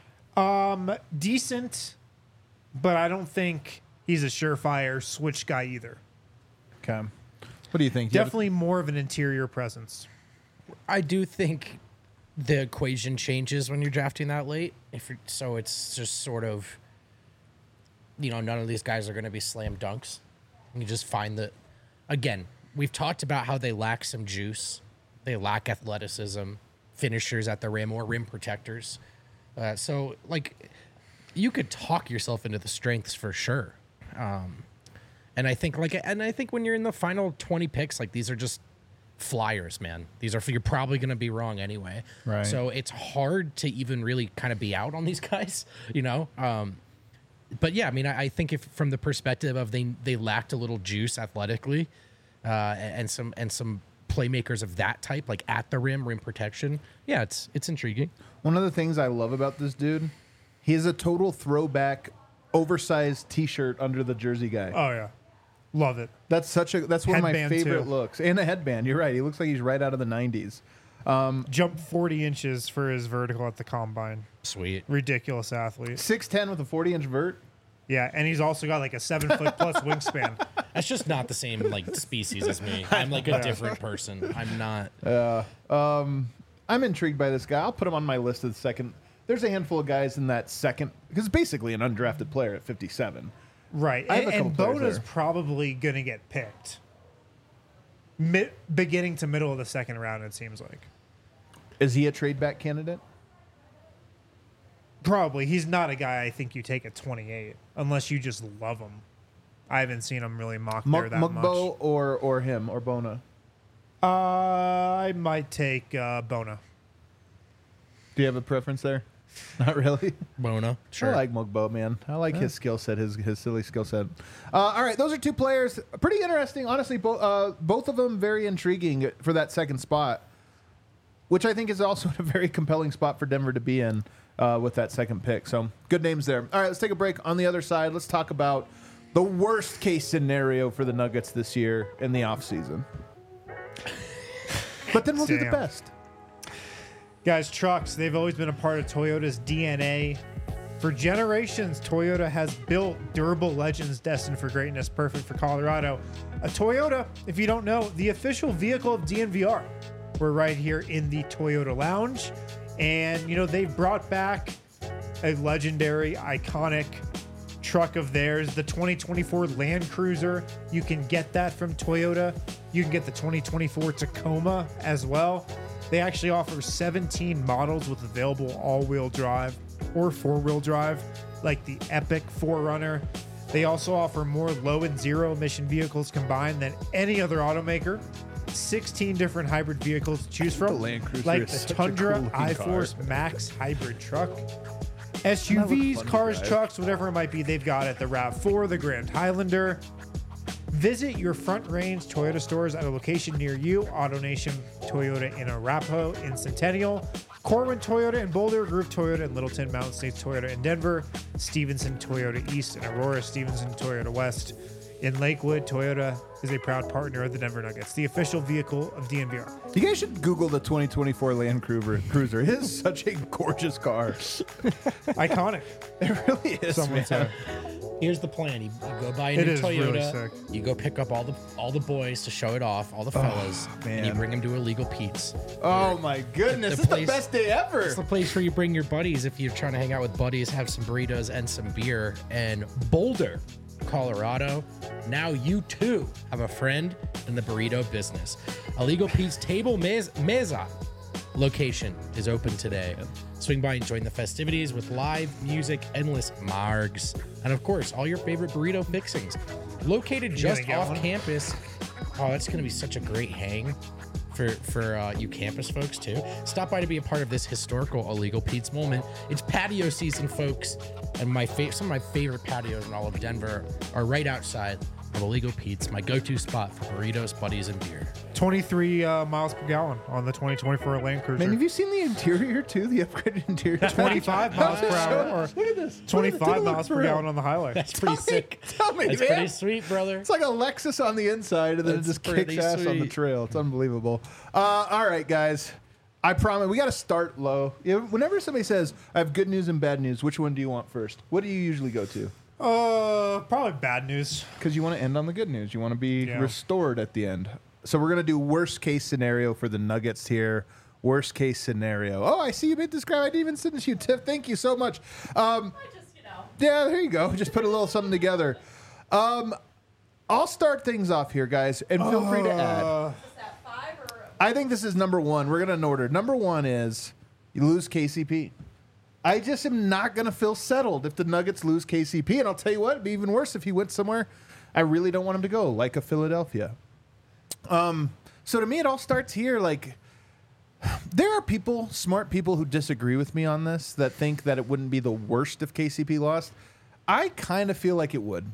Decent, but I don't think he's a surefire switch guy either. Okay. What do you think? Do you have- Definitely more of an interior presence. I do think the equation changes when you're drafting that late. If you're, so, it's just sort of, you know, none of these guys are going to be slam dunks. You just find that, again, we've talked about how they lack some juice, they lack athleticism, finishers at the rim or rim protectors. Uh, so, like, you could talk yourself into the strengths for sure. Um, and I think, like, and I think when you're in the final twenty picks, like, these are just flyers, man. These are, you're probably going to be wrong anyway. Right. So it's hard to even really kind of be out on these guys, you know? Um, but yeah, I mean, I, I think if from the perspective of they, they lacked a little juice athletically, uh, and some, and some playmakers of that type, like at the rim, rim protection. Yeah, it's, it's intriguing. One of the things I love about this dude, he is a total throwback, oversized T-shirt under the jersey guy. Oh yeah, love it. That's such a that's one of my Headband, favorite too. looks. And a headband. You're right. He looks like he's right out of the nineties. Jumped forty inches for his vertical at the combine. Sweet. Ridiculous athlete. six ten with a forty inch vert. Yeah, and he's also got like a seven foot plus wingspan. That's just not the same like species as me. I'm like a different person. I'm not. I'm intrigued by this guy. I'll put him on my list of the second. There's a handful of guys in that second because it's basically an undrafted player at fifty-seven. Right, I have and, a couple and players Bona's there. probably gonna get picked. Mid, beginning to middle of the second round, it seems like. Is he a trade back candidate? Probably. He's not a guy I think you take at twenty-eight unless you just love him. I haven't seen him really mock there Mug- that Mugbo much. or or him or Bona? Uh, I might take uh, Bona. Do you have a preference there? Not really. Bona. Sure. I like Mugbo, man. I like his skill set, his his silly skill set. Uh, all right, those are two players. Pretty interesting, honestly. Bo- uh, both of them very intriguing for that second spot, which I think is also a very compelling spot for Denver to be in uh, with that second pick. So good names there. All right, let's take a break. On the other side, let's talk about the worst case scenario for the Nuggets this year in the offseason. But then we'll do the Damn. best. Guys, trucks, they've always been a part of Toyota's D N A. For generations, Toyota has built durable legends destined for greatness, perfect for Colorado. A Toyota, if you don't know, the official vehicle of D N V R. We're right here in the Toyota Lounge. And, you know, they've brought back a legendary, iconic truck of theirs, the twenty twenty-four Land Cruiser. You can get that from Toyota. You can get the twenty twenty-four Tacoma as well. They actually offer seventeen models with available all-wheel drive or four-wheel drive, like the Epic four runner. They also offer more low and zero emission vehicles combined than any other automaker. sixteen different hybrid vehicles to choose from, Land Cruiser like is the such a Tundra cool looking iForce car. Max hybrid truck. That S U looks Vs, fun to cars, drive. trucks, whatever it might be, they've got it. The RAV four, the Grand Highlander. Visit your Front Range Toyota stores at a location near you. AutoNation Toyota in Arapahoe in Centennial. Corwin Toyota in Boulder. Groove Toyota in Littleton. Mountain States Toyota in Denver. Stevenson Toyota East in Aurora. Stevenson Toyota West in Lakewood. Toyota is a proud partner of the Denver Nuggets, the official vehicle of D N V R. You guys should Google the twenty twenty-four Land Cruiser. Cruiser. It is such a gorgeous car. Iconic. It really is, Someone man. said. Here's the plan: you, you go buy a It new is really Toyota. sick. You go pick up all the all the boys to show it off, all the fellas, and you man. bring them to Illegal Pete's. Oh my goodness, The this place- is the best day ever. It's the place where you bring your buddies if you're trying to hang out with buddies, have some burritos and some beer. And Boulder, Colorado, now you too have a friend in the burrito business. Illegal Pete's Table Mez- Meza location is open today. Swing by and join the festivities with live music, endless margs, and of course, all your favorite burrito fixings. Located just get off one? campus. Oh, it's going to be such a great hang for for uh, you campus folks too. Stop by to be a part of this historical Illegal Pete's moment. It's patio season, folks, and my fa- some of my favorite patios in all of Denver are right outside of Illegal Pete's, my go-to spot for burritos, buddies, and beer. twenty-three uh, miles per gallon on the twenty twenty-four Land Cruiser. Man, have you seen the interior too? The upgraded interior. twenty-five miles per hour or Look at this. twenty-five miles per gallon on the highway. That's pretty Tell me- sick. tell me, That's man. pretty sweet, brother. It's like a Lexus on the inside, and then That's it just kicks pretty ass on the sweet. trail. It's unbelievable. Uh, all right, guys. I promise we got to start low. You know, whenever somebody says, "I have good news and bad news," which one do you want first? What do you usually go to? Uh, probably bad news. Because you want to end on the good news. You want to be Yeah. restored at the end. So we're gonna do worst case scenario for the Nuggets here. Worst case scenario. Oh, I see you made this graph. I didn't even send this to you, Tiff. Thank you so much. Um, I just, you know. Yeah, there you go. Just put a little something together. Um, I'll start things off here, guys, and feel free to add. Uh, Is that five or? I think this is number one. We're going to in order. Number one is you lose K C P. I just am not going to feel settled if the Nuggets lose K C P. And I'll tell you what, it'd be even worse if he went somewhere I really don't want him to go, like a Philadelphia. Um, so to me, it all starts here. Like, there are people, smart people, who disagree with me on this, that think that it wouldn't be the worst if K C P lost. I kind of feel like it would.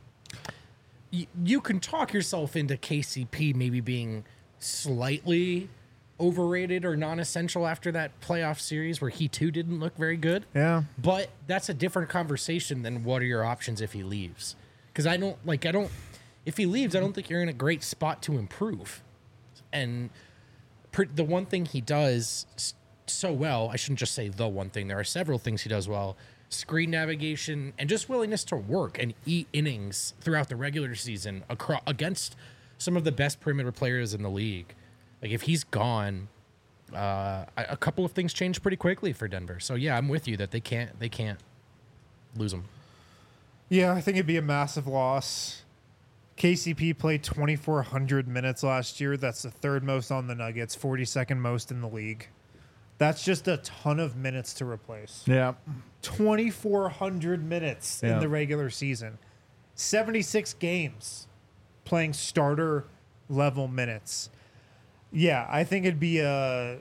You, you can talk yourself into K C P maybe being slightly overrated or non-essential after that playoff series where he too didn't look very good. yeah. But that's a different conversation than what are your options if he leaves. Because I don't like I don't if he leaves, I don't think you're in a great spot to improve. And per, the one thing he does s- so well, I shouldn't just say the one thing. There are several things he does well: screen navigation and just willingness to work and eat innings throughout the regular season across against some of the best perimeter players in the league. Like if he's gone, uh, a a couple of things change pretty quickly for Denver. So yeah, I'm with you that they can't they can't lose him. Yeah, I think it'd be a massive loss. K C P played twenty-four hundred minutes last year. That's the third most on the Nuggets, forty-second most in the league. That's just a ton of minutes to replace. Yeah. twenty-four hundred minutes Yeah. in the regular season. seventy-six games playing starter level minutes. Yeah, I think it'd be a...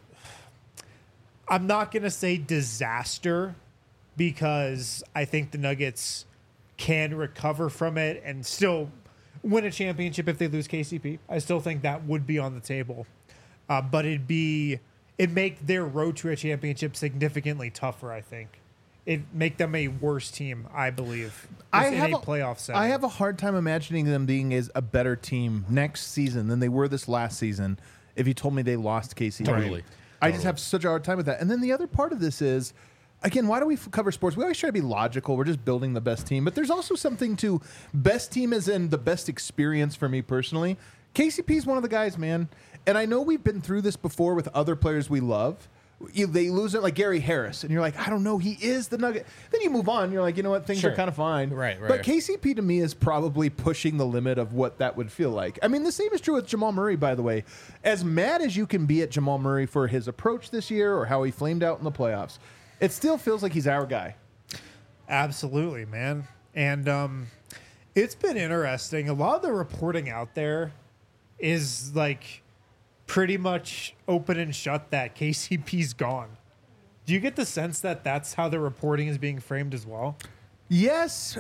I'm not going to say disaster because I think the Nuggets can recover from it and still win a championship if they lose K C P. I still think that would be on the table. Uh, but it'd be... It'd make their road to a championship significantly tougher, I think. It'd make them a worse team, I believe, I in have a a- playoff setting. I have a hard time imagining them being as a better team next season than they were this last season if you told me they lost K C P. Totally. I just have such a hard time with that. And then the other part of this is, again, why do we f- cover sports? We always try to be logical. We're just building the best team. But there's also something to best team as in the best experience for me personally. K C P is one of the guys, man. And I know we've been through this before with other players we love. you, they lose it like Gary Harris, and you're like, I don't know, he is the Nugget. Then you move on, and you're like, you know what, things Sure. are kind of fine. Right, right. But K C P to me is probably pushing the limit of what that would feel like. I mean, the same is true with Jamal Murray, by the way. As mad as you can be at Jamal Murray for his approach this year or how he flamed out in the playoffs, it still feels like he's our guy. Absolutely, man. And um, it's been interesting. A lot of the reporting out there is like pretty much open and shut that K C P's gone. Do you get the sense that that's how the reporting is being framed as well? Yes.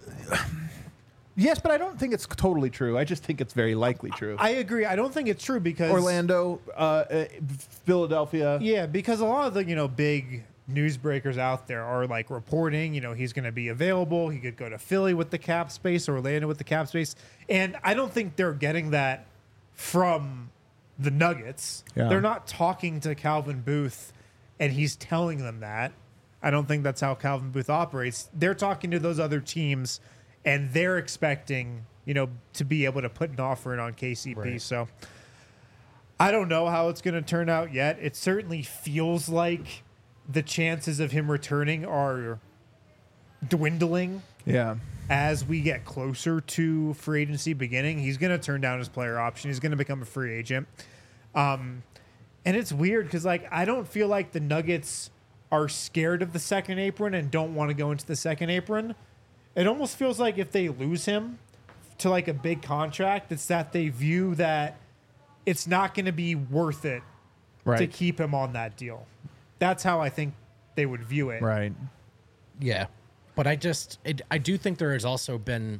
Yes, but I don't think it's totally true. I just think it's very likely true. I agree. I don't think it's true because Orlando, uh, uh, Philadelphia. Yeah, because a lot of the, you know, big newsbreakers out there are like reporting, you know, he's going to be available. He could go to Philly with the cap space or Orlando with the cap space. And I don't think they're getting that from the Nuggets. Yeah. They're not talking to Calvin Booth and he's telling them that. I don't think that's how Calvin Booth operates. They're talking to those other teams and they're expecting, you know, to be able to put an offer in on K C P. Right. So I don't know how it's going to turn out yet. It certainly feels like the chances of him returning are dwindling Yeah. as we get closer to free agency beginning. He's going to turn down his player option. He's going to become a free agent. Um, and it's weird because, like, I don't feel like the Nuggets are scared of the second apron and don't want to go into the second apron. It almost feels like if they lose him to, like, a big contract, it's that they view that it's not going to be worth it Right. to keep him on that deal. That's how I think they would view it. Right. Yeah, but I just it, I do think there has also been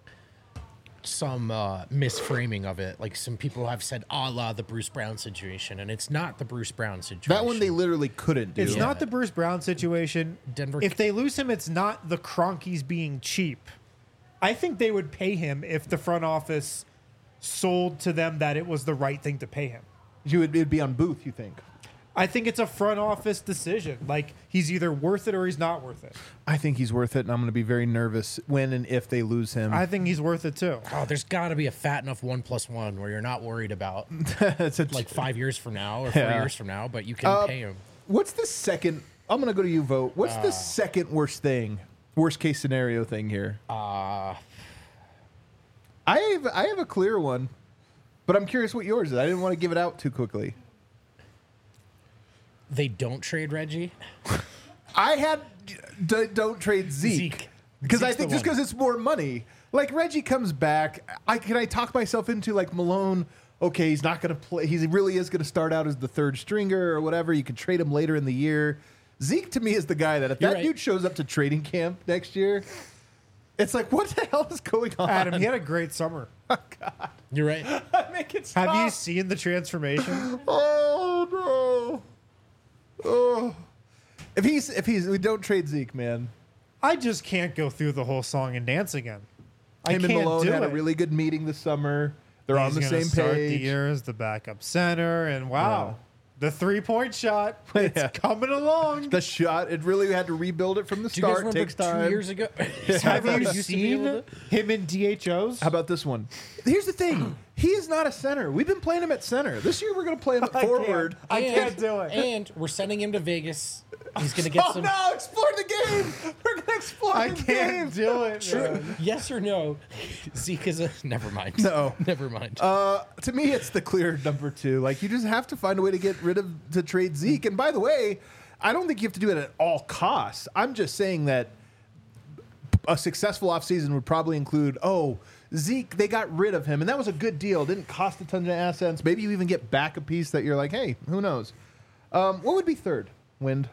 some uh, misframing of it. Like some people have said, "A la the Bruce Brown situation," and it's not the Bruce Brown situation. That one they literally couldn't do. It's Yeah. not the Bruce Brown situation. Denver- If they lose him, it's not the Cronkies being cheap. I think they would pay him if the front office sold to them that it was the right thing to pay him. You would it'd be on Booth, you think? I think it's a front office decision. Like, he's either worth it or he's not worth it. I think he's worth it, and I'm going to be very nervous when and if they lose him. I think he's worth it too. Oh, there's got to be a fat enough one plus one where you're not worried about It's a- like five years from now or four Yeah. years from now, but you can Uh, pay him. What's the second? I'm going to go to you, vote. What's Uh. the second worst thing, worst case scenario thing here? Uh, I have I have a clear one, but I'm curious what yours is. I didn't want to give it out too quickly. they don't trade Reggie. I had d- don't trade Zeke Zeke. because I Zeke's think the just one. because it's more money. Like Reggie comes back, I can I talk myself into like Malone. Okay, he's not going to play. He really is going to start out as the third stringer or whatever. You can trade him later in the year. Zeke to me is the guy that if You're that right. dude shows up to training camp next year, it's like what the hell is going on? Adam, he had a great summer. You're right. Make it stop. Have you seen the transformation? Oh no! Oh, if he's if he's we don't trade Zeke, man. I just can't go through the whole song and dance again. I Him can't and Malone do had it. a really good meeting this summer. They're on He's the gonna same start page. The year as the backup center, and wow, Yeah. the three-point shot, it's Yeah. coming along. The shot, it really had to rebuild it from the Do you guys start. remember Takes two time. years ago? Have you Used to be able seen to- him in D H Os? How about this one? Here's the thing. He is not a center. We've been playing him at center. This year we're going to play him at I can't. forward. I And- can't do it. And we're sending him to Vegas. He's gonna get Oh some. no! Explore the game. We're going to explore I the can't game. do it. True. man. Yes or no? Zeke is a. Never mind. No. Never mind. Uh, to me, it's the clear number two. Like you just have to find a way to get rid of to trade Zeke. And by the way, I don't think you have to do it at all costs. I'm just saying that a successful offseason would probably include, oh, Zeke, they got rid of him, and that was a good deal. Didn't cost a ton of assets. Maybe you even get back a piece that you're like, hey, who knows? Um, what would be third? Wind.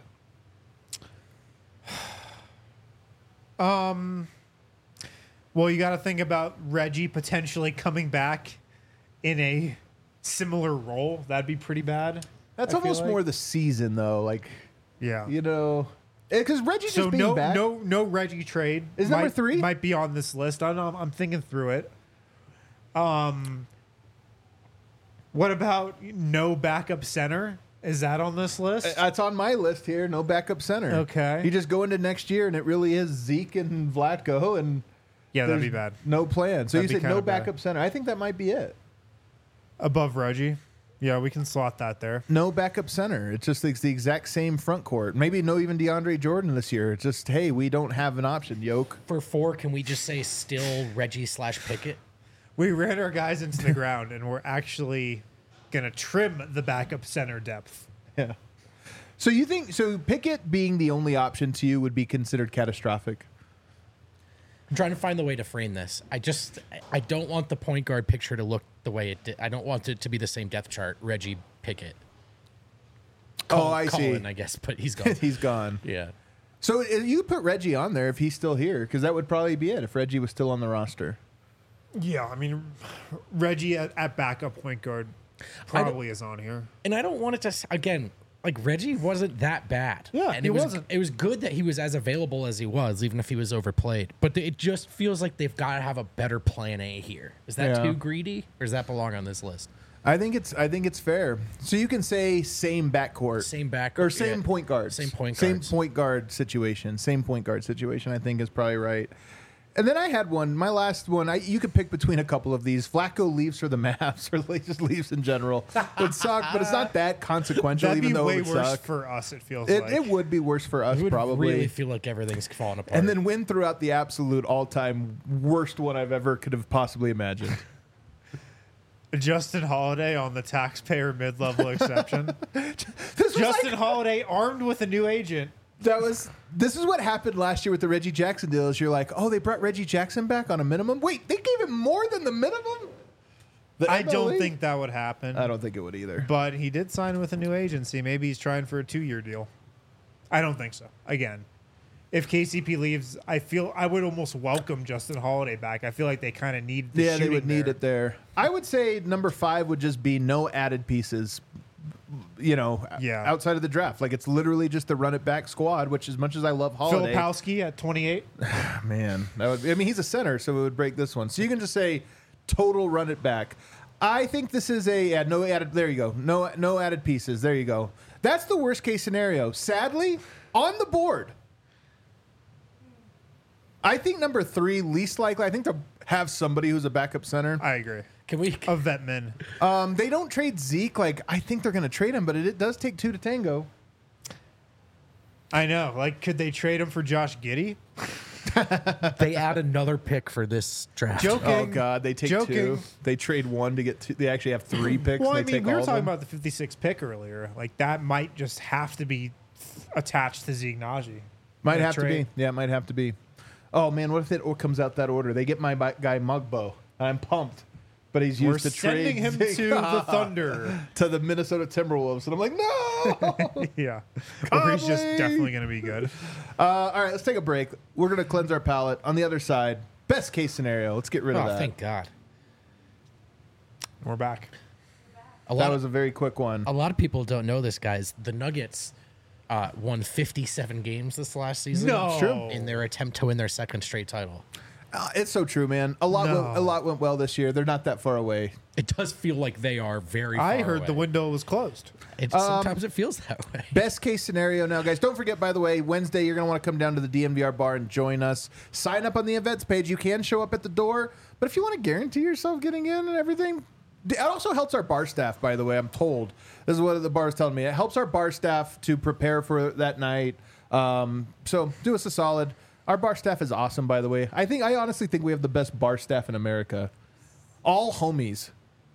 Well, you got to think about Reggie potentially coming back in a similar role. That'd be pretty bad. That's I feel almost like. more the season, though. Like, Yeah. you know, because Reggie So just being no, back. no, no Reggie trade. Is might, number three? might be on this list. I don't know. I'm thinking through it. Um, what about no backup center? Is that on this list? It's on my list here. No backup center. Okay. You just go into next year, and it really is Zeke and Vlatko, and yeah, that'd be there's bad. No plan. So That'd you be said no kinda bad. backup center. I think that might be it. Above Reggie. Yeah, we can slot that there. No backup center. It's just it's the exact same front court. Maybe no even DeAndre Jordan this year. It's just, hey, we don't have an option, yoke. For four, can we just say still Reggie slash Pickett? We ran our guys into the ground, and we're actually going to trim the backup center depth. Yeah. So you think so Pickett being the only option to you would be considered catastrophic? I'm trying to find the way to frame this. I just I don't want the point guard picture to look the way it did. I don't want it to be the same depth chart. Reggie Pickett. Oh, I Colin, see. I guess, but he's gone. He's gone. Yeah. So uh, you put Reggie on there if he's still here, because that would probably be it if Reggie was still on the roster. Yeah, I mean, Reggie at, at backup point guard probably is on here. And I don't want it to s- again. Like Reggie wasn't that bad. Yeah, and he it was, wasn't. It was good that he was as available as he was, even if he was overplayed. But it just feels like they've got to have a better plan A here. Is that Yeah. too greedy, or does that belong on this list? I think it's I think it's fair. So you can say same backcourt, Same back or same yeah. point guard, Same point same guards. point guard situation, same point guard situation. I think is probably right. And then I had one, my last one. I, you could pick between a couple of these. Flacco leaves for the Mavs, or like just leaves in general. It would suck, but it's not that consequential. That'd even be though way it would worse suck. for us, it feels It, like. it would be worse for us, It would probably. really feel like everything's falling apart. And then win throughout the absolute all-time worst one I've ever could have possibly imagined. Justin Holiday on the taxpayer mid-level exception. This was Justin like- Holiday armed with a new agent. That was. This is what happened last year with the Reggie Jackson deal. Is you're like, oh, they brought Reggie Jackson back on a minimum. Wait, they gave him more than the minimum. The I M L don't E? think that would happen. I don't think it would either. But he did sign with a new agency. Maybe he's trying for a two-year deal. I don't think so. Again, if K C P leaves, I feel I would almost welcome Justin Holiday back. I feel like they kind of need the Yeah, they shooting would need there. it there. I would say number five would just be no added pieces. You know, Yeah. outside of the draft, like it's literally just the run it back squad. Which, as much as I love Holiday, Filipowski at twenty-eight. man, that would. I mean, he's a center, so it would break this one. So you can just say total run it back. I think this is a yeah, no added. There you go. No no added pieces. There you go. That's the worst case scenario. Sadly, on the board, I think number three least likely. I think to have somebody who's a backup center. I agree. can we? A vet min. Um, they don't trade Zeke. Like I think they're going to trade him, but it, it does take two to tango. I know. Like, could they trade him for Josh Giddey? They add another pick for this draft. Joking. Oh God, they take Joking. two. They trade one to get two. They actually have three picks. Well, and I they mean, take we were all of talking them. about the fifty-six pick earlier. Like, that might just have to be attached to Zeke Naji. Might in a have to trade. be. Yeah, it might have to be. Oh man, what if it or- comes out that order? They get my bi- guy Mugbo. I'm pumped, but he's We're used to sending trade him to the Thunder. to the Minnesota Timberwolves, and I'm like, no. Yeah. Or he's just Conley! definitely going to be good. uh, all right, let's take a break. We're gonna cleanse our palate. On the other side, best case scenario. Let's get rid Oh, of that. thank God. We're back. A lot That of was a very quick one. a lot of people don't know this, guys. The Nuggets uh, won fifty-seven games this last season. No. True. In their attempt to win their second straight title. Uh, it's so true, man. A lot, No. went, a lot went well this year. They're not that far away. It does feel like they are very. I far heard the away. window was closed. It, Um, sometimes it feels that way. Best case scenario now, guys. Don't forget, by the way, Wednesday, you're going to want to come down to the D N V R bar and join us. Sign up on the events page. You can show up at the door, but if you want to guarantee yourself getting in and everything, it also helps our bar staff, by the way. I'm told. This is what the bar is telling me. It helps our bar staff to prepare for that night. Um, so do us a solid. Our bar staff is awesome, by the way. I think I honestly think we have the best bar staff in America. All homies.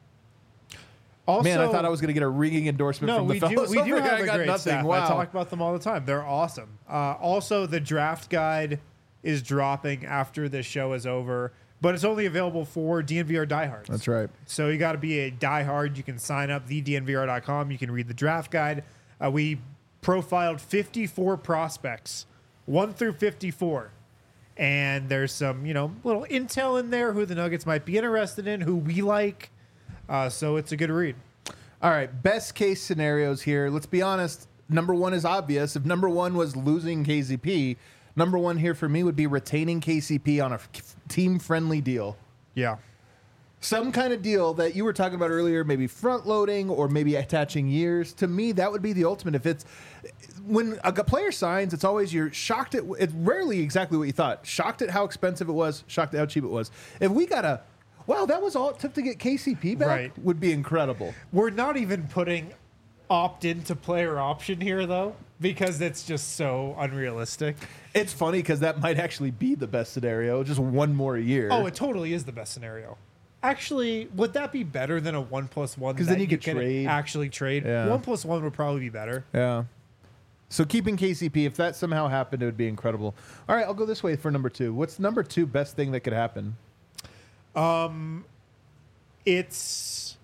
Also, Man, I thought I was going to get a ringing endorsement No, from the we do. fellows We do over here. have I a got great nothing. staff. Wow. I talk about them all the time. They're awesome. Uh, also, the draft guide is dropping after this show is over, but it's only available for D N V R diehards. That's right. So you got to be a diehard. You can sign up the D N V R dot com. You can read the draft guide. Uh, we profiled fifty-four prospects, one through fifty-four. And there's some, you know, little intel in there who the Nuggets might be interested in, who we like. Uh, so it's a good read. All right, best case scenarios here. Let's be honest. Number one is obvious. If number one was losing K C P, number one here for me would be retaining K C P on a team-friendly deal. Yeah. Some kind of deal that you were talking about earlier, maybe front loading or maybe attaching years. To me, that would be the ultimate. If it's when a player signs, it's always you're shocked at it's rarely exactly what you thought. Shocked at how expensive it was, shocked at how cheap it was. If we got a Wow, that was all it took to get K C P back? Right. Would be incredible. We're not even putting opt into player option here, though, because it's just so unrealistic. It's funny because that might actually be the best scenario, just one more year. Oh, it totally is the best scenario. Actually, would that be better than a one plus one? 'Cause that then you could can trade. actually trade. Yeah. One plus one would probably be better. Yeah. So keeping K C P, if that somehow happened, it would be incredible. All right, I'll go this way for number two. What's number two best thing that could happen? It's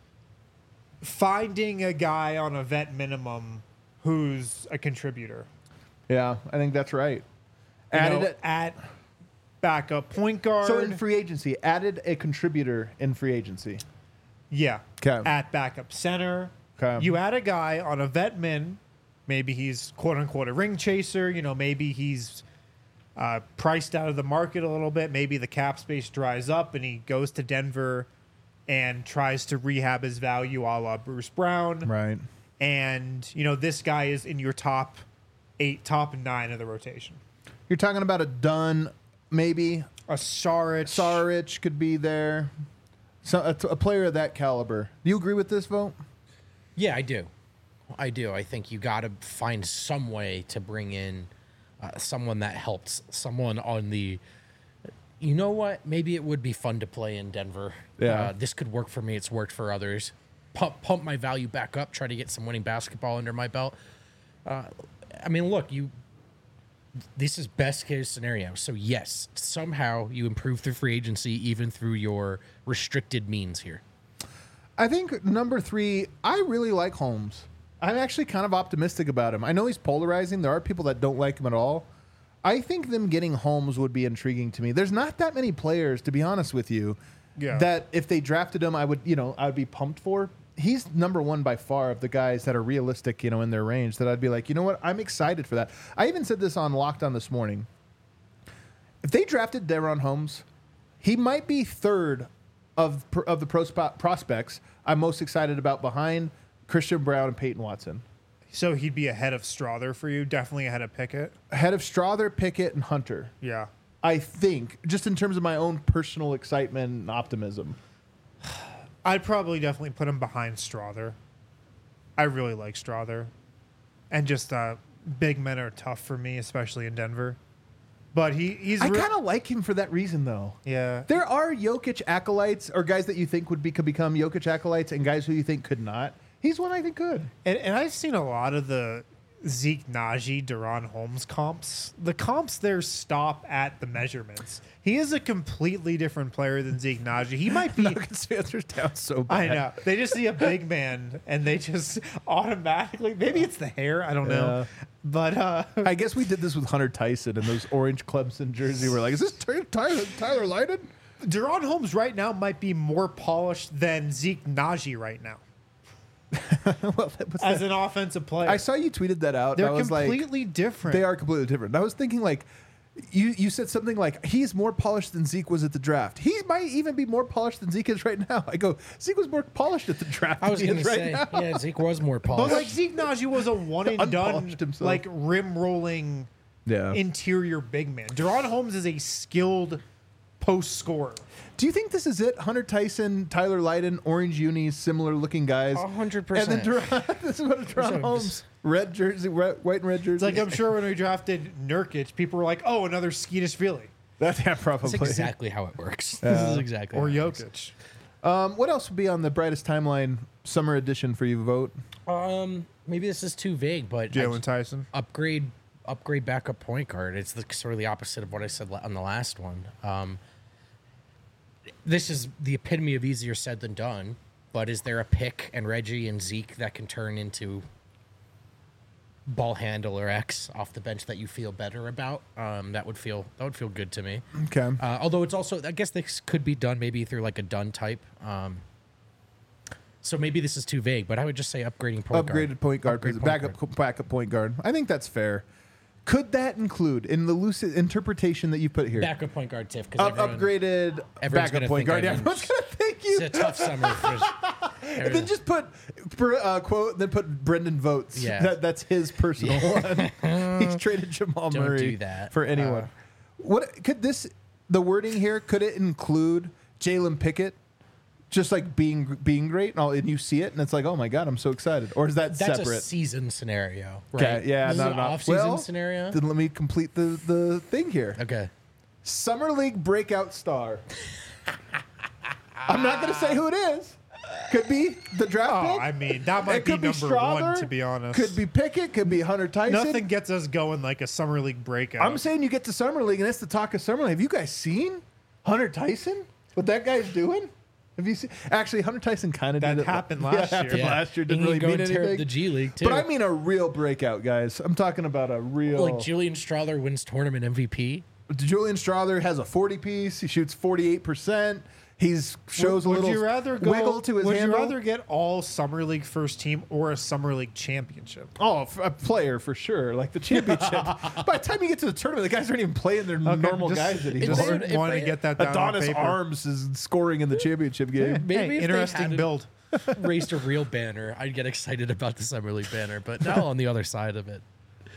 finding a guy on a vet minimum who's a contributor. Yeah, I think that's right. You Added know, it. at backup point guard. So in free agency, added a contributor in free agency. yeah. 'Kay. At backup center. 'Kay. You add a guy on a vet min. Maybe he's quote unquote a ring chaser. You know, maybe he's uh, priced out of the market a little bit. Maybe the cap space dries up and he goes to Denver and tries to rehab his value a la Bruce Brown. Right. And, you know, this guy is in your top eight, top nine of the rotation. You're talking about a Dunn, maybe. A Saric. Saric could be there. So a, a player of that caliber. Do you agree with this vote? Yeah, I do. I do. I think you got to find some way to bring in uh, someone that helps, someone on the. You know what? Maybe it would be fun to play in Denver. Yeah. Uh, this could work for me. It's worked for others. Pump, pump my value back up. Try to get some winning basketball under my belt. Uh, I mean, look, you. This is best case scenario. So yes, somehow you improve through free agency, even through your restricted means here. I think number three, I really like Holmes. I'm actually kind of optimistic about him. I know he's polarizing. There are people that don't like him at all. I think them getting Holmes would be intriguing to me. There's not that many players, to be honest with you, Yeah. that if they drafted him, I would, you know, I would be pumped for. He's number one by far of the guys that are realistic, you know, in their range. That I'd be like, you know what, I'm excited for that. I even said this on Locked On this morning. If they drafted Deron Holmes, he might be third of of the prospe- prospects I'm most excited about behind Christian Brown and Peyton Watson. So he'd be ahead of Strother for you, definitely ahead of Pickett. Ahead of Strother, Pickett, and Hunter. Yeah. I think, just in terms of my own personal excitement and optimism. I'd probably definitely put him behind Strother. I really like Strother. And just uh, big men are tough for me, especially in Denver. But he, he's... I re- kind of like him for that reason, though. Yeah. There are Jokic acolytes, or guys that you think would be, could become Jokic acolytes, and guys who you think could not. He's one I think could. And, and I've seen a lot of the Zeke Najee, Deron Holmes comps. The comps there stop at the measurements. He is a completely different player than Zeke Najee. He might be... Nuggets fans are down so bad. I know. They just see a big man and they just automatically... Maybe it's the hair. I don't know. Yeah. But... uh I guess we did this with Hunter Tyson and those orange Clemson jersey. We're like, is this Ty- Tyler, Tyler Lydon? Deron Holmes right now might be more polished than Zeke Najee right now Well, that was as that. an offensive player. I saw you tweeted that out. They're and I was completely like, different. they are completely different. And I was thinking, like, you you said something like, he's more polished than Zeke was at the draft. He might even be more polished than Zeke is right now. I go, Zeke was more polished at the draft I was than going he to is say, right now. yeah, Zeke was more But polished. like Zeke Najee was a one and done, Unpolished himself. like rim rolling Yeah. interior big man. Deron Holmes is a skilled post scorer. Do you think this is it? Hunter Tyson, Tyler Lydon, orange unis, similar looking guys. A hundred And then percent. Deron, this is what Deron So Holmes, just- red jersey, red, white and red jersey. It's like I'm sure when we drafted Nurkic, people were like, "Oh, another Skeetish Philly That's yeah, probably. That's exactly how it works. This is exactly or how it works. Jokic." Um, what else would be on the brightest timeline summer edition for you? Vote. Um, maybe this is too vague, but I Jalen just- Tyson. upgrade upgrade backup point guard. It's the sort of the opposite of what I said la- on the last one. Um, this is the epitome of easier said than done. But is there a pick and Reggie and Zeke that can turn into ball handler X off the bench that you feel better about? Um, that would feel that would feel good to me. Okay. Uh, although it's also, I guess this could be done maybe through like a done type. Um, so maybe this is too vague, but I would just say upgrading point guard. Upgraded point guard, Upgrade point backup guard. backup point guard. I think that's fair. Could that include, in the loose interpretation that you put here, Backup point guard, Tiff. 'Cause up, everyone- upgraded everyone's backup gonna point think guard? Yeah, I've been- everyone's gonna thank you. It's a tough summer. For, And then just put uh, quote, then put Brendan Votes. Yeah. That, that's his personal one. He's traded Jamal Don't Murray do that. for anyone. Uh, what could this? The wording here, could it include Jalen Pickett Just like being being great, and, all, and you see it, and it's like, oh my god, I'm so excited. Or is that That's separate? a season scenario, right? Okay, yeah, this no, is an no. off-season Well, scenario. Then let me complete the the thing here. Okay. Summer League breakout star. I'm not going to say who it is. Could be the draft Oh, pick. I mean, that might It be could number Strother, one, to be honest. Could be Pickett. Could be Hunter Tyson. Nothing gets us going like a summer league breakout. I'm saying you get to Summer League, and it's the talk of Summer League. Have you guys seen Hunter Tyson? What that guy's doing? Have you seen? Actually, Hunter Tyson kind of That did it. happened Yeah, last it happened year. Yeah. last year. He Didn't can really go mean and tear up anything. the G League too. But I mean a real breakout, guys. I'm talking about a real. like Julian Strother wins tournament M V P. Julian Strother has a forty piece. He shoots forty-eight percent. He's shows would, a little would you rather go, wiggle to his Would handle. you rather get all summer league first team or a summer league championship? Oh, f- a player for sure. Like the championship. By the time you get to the tournament, the guys aren't even playing their normal just- guys It's anymore. hard- Just if want to they- get that down on Adonis paper. Arms is scoring in the championship game. Maybe Hey, if they interesting hadn't build. Raised a real banner, I'd get excited about the summer league banner. But now on the other side of it,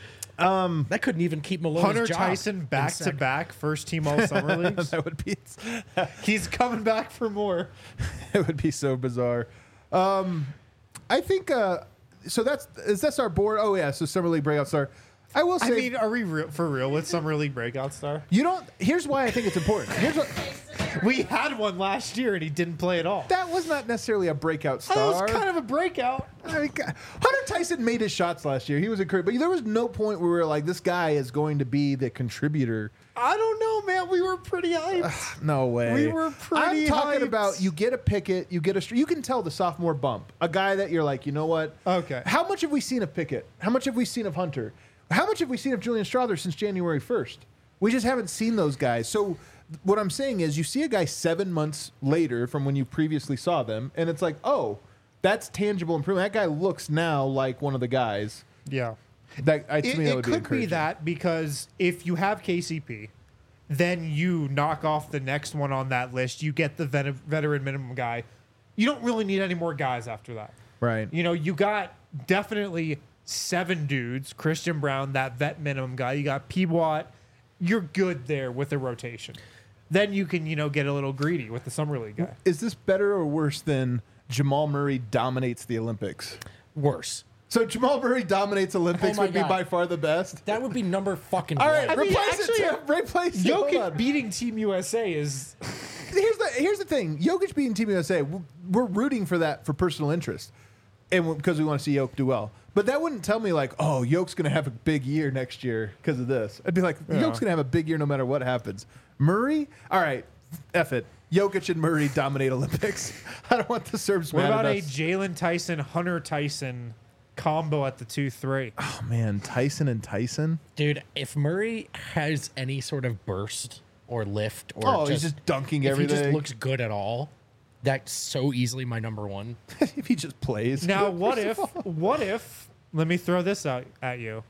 um, that couldn't even keep Malone's Hunter job Tyson in back to sec- back first team all summer leagues. That would be He's coming back for more. it would be so bizarre. Um, I think uh, so. That's is this our board? Oh yeah, so summer league breakout star. I will say. I mean, are we real, for real with summer league breakout star? you don't. Here's why I think it's important. Here's what. We had one last year and he didn't play at all. That was not necessarily a breakout That star. was kind of a breakout. I mean, God, Hunter Tyson made his shots last year. He was encouraged, but there was no point where we were like, this guy is going to be the contributor. I don't know, man. We were pretty hyped. No way. We were pretty I'm talking hyped. about you get a Pickett, you get a. str- You can tell the sophomore bump, a guy that you're like, you know what? Okay. How much have we seen of Pickett? How much have we seen of Hunter? How much have we seen of Julian Strother since January first? We just haven't seen those guys. So what I'm saying is, you see a guy seven months later from when you previously saw them, and it's like, oh, that's tangible improvement. That guy looks now like one of the guys. Yeah. That I, to It, me, that it would could be, be encouraging. that because if you have K C P, then you knock off the next one on that list. You get the vet- veteran minimum guy. You don't really need any more guys after that. Right. You know, you got definitely seven dudes. Christian Brown, that vet minimum guy. You got Peabot. You're good there with the rotation. Then you can, you know, get a little greedy with the summer league guy. Is this better or worse than Jamal Murray dominates the Olympics? Worse. So Jamal Murray dominates Olympics Oh my would be God. by far the best. That would be number fucking All right, one. I mean, replace actually, it. Tim. Replace it. Hold Jokic on. beating Team U S A is Here's the here's the thing. Jokic beating Team U S A. We're rooting for that for personal interest, and because we want to see Jokic do well. But that wouldn't tell me like, oh, Jokic's going to have a big year next year because of this. I'd be like, Yeah. Jokic's going to have a big year no matter what happens. Murray, all right, F it. Jokic and Murray dominate Olympics. I don't want the Serbs What mad about at a us. Jalen Tyson, Hunter Tyson combo at the two three? Oh man, Tyson and Tyson. Dude, if Murray has any sort of burst or lift or Oh, just, he's just dunking if everything. he just looks good at all, that's so easily my number one. if he just plays. Now, what if, what if, let me throw this out at you.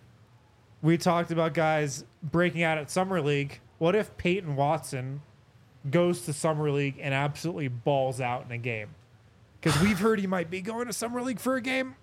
We talked about guys breaking out at Summer League. What if Peyton Watson goes to Summer League and absolutely balls out in a game? Because we've heard he might be going to Summer League for a game.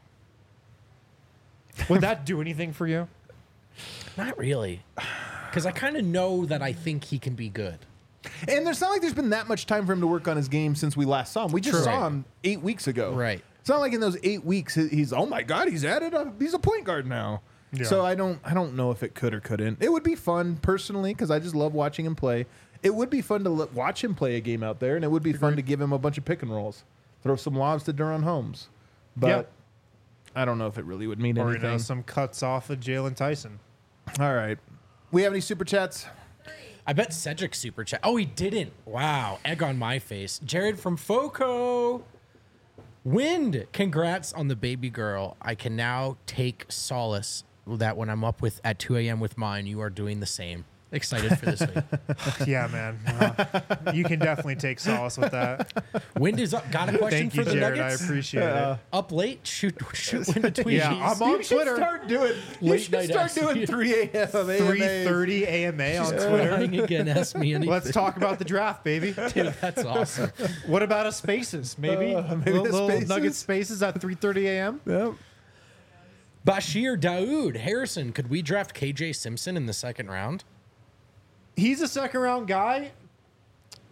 Would that do anything for you? Not really. Because I kind of know that I think he can be good. And there's not like there's been that much time for him to work on his game since we last saw him. We just True. saw Right. him eight weeks ago. Right. It's not like in those eight weeks he- he's oh my god he's added a he's a point guard now. Yeah. So I don't I don't know if it could or couldn't. It would be fun personally because I just love watching him play. It would be fun to l- watch him play a game out there, and it would be fun to give him a bunch of pick and rolls, throw some lobs to Duran Holmes. But Yep. I don't know if it really would mean Or, you anything. know, some cuts off of Jalen Tyson. All right, we have any super chats? I bet Cedric super chat. Oh, he didn't. Wow. Egg on my face. Jared from Foco. Wind. Congrats on the baby girl. I can now take solace that when I'm up with at two a.m. with mine, you are doing the same. Excited for this week. Yeah, man. Uh, you can definitely take solace with that. Wind is up. Got a question Thank for you, the Jared. I Nuggets? appreciate it. Up late? Shoot, shoot Wind a tweet. Yeah, I'm on you should Twitter. start doing. You Late should night start ask doing you. three a.m. three thirty A M A on Twitter. Trying again. Ask me anything. Let's talk about the draft, baby. Dude, that's awesome. What about a Spaces? Maybe, Uh, maybe little, a little Spaces? Nugget Spaces at three thirty A M. Yep. Bashir Daoud. Harrison, could we draft K J Simpson in the second round? He's a second round guy.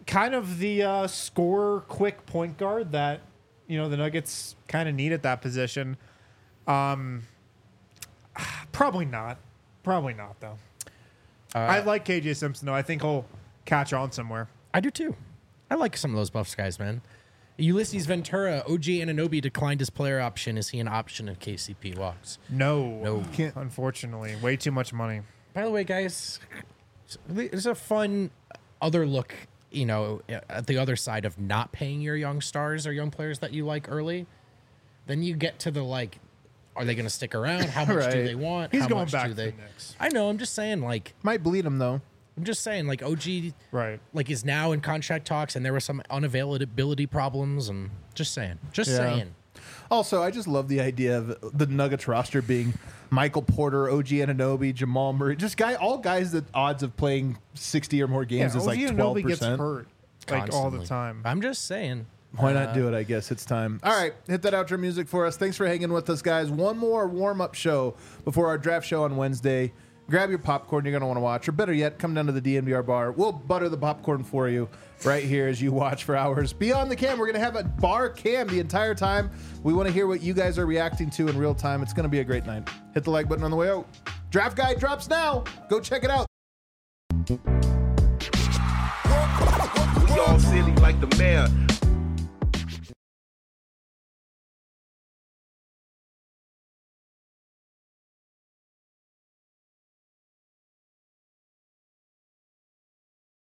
kind of the uh, score quick point guard that, you know, the Nuggets kind of need at that position. Um, probably not. Probably not, though. Uh, I like K J Simpson, though. I think he'll catch on somewhere. I do, too. I like some of those Buffs guys, man. Ulysses Ventura, O G Anunoby declined his player option. Is he an option if K C P walks? No. No. Can't. Unfortunately. Way too much money. By the way, guys, it's a fun other look, you know, at the other side of not paying your young stars or young players that you like early. Then you get to the, like, are they going to stick around? How much Right. do they want? He's How going much back do to they? the Knicks. I know. I'm just saying, like, Might bleed him though. I'm just saying, like, O G, Right. like, is now in contract talks, and there were some unavailability problems, and just saying, just Yeah. saying. Also, I just love the idea of the Nuggets roster being Michael Porter, O G Anunoby, Jamal Murray, just guy, all guys that odds of playing sixty or more games Yeah, is like O G twelve Anunoby gets percent. hurt like all the Constantly. time. I'm just saying. Why not do it? I guess it's time. All right, hit that outro music for us. Thanks for hanging with us, guys. One more warm-up show before our draft show on Wednesday. Grab your popcorn you're going to want to watch, or better yet, come down to the D N V R bar. We'll butter the popcorn for you right here as you watch for hours. Beyond the cam, we're going to have a bar cam the entire time. We want to hear what you guys are reacting to in real time. It's going to be a great night. Hit the like button on the way out. Draft Guide drops now. Go check it out. We all silly like the mayor.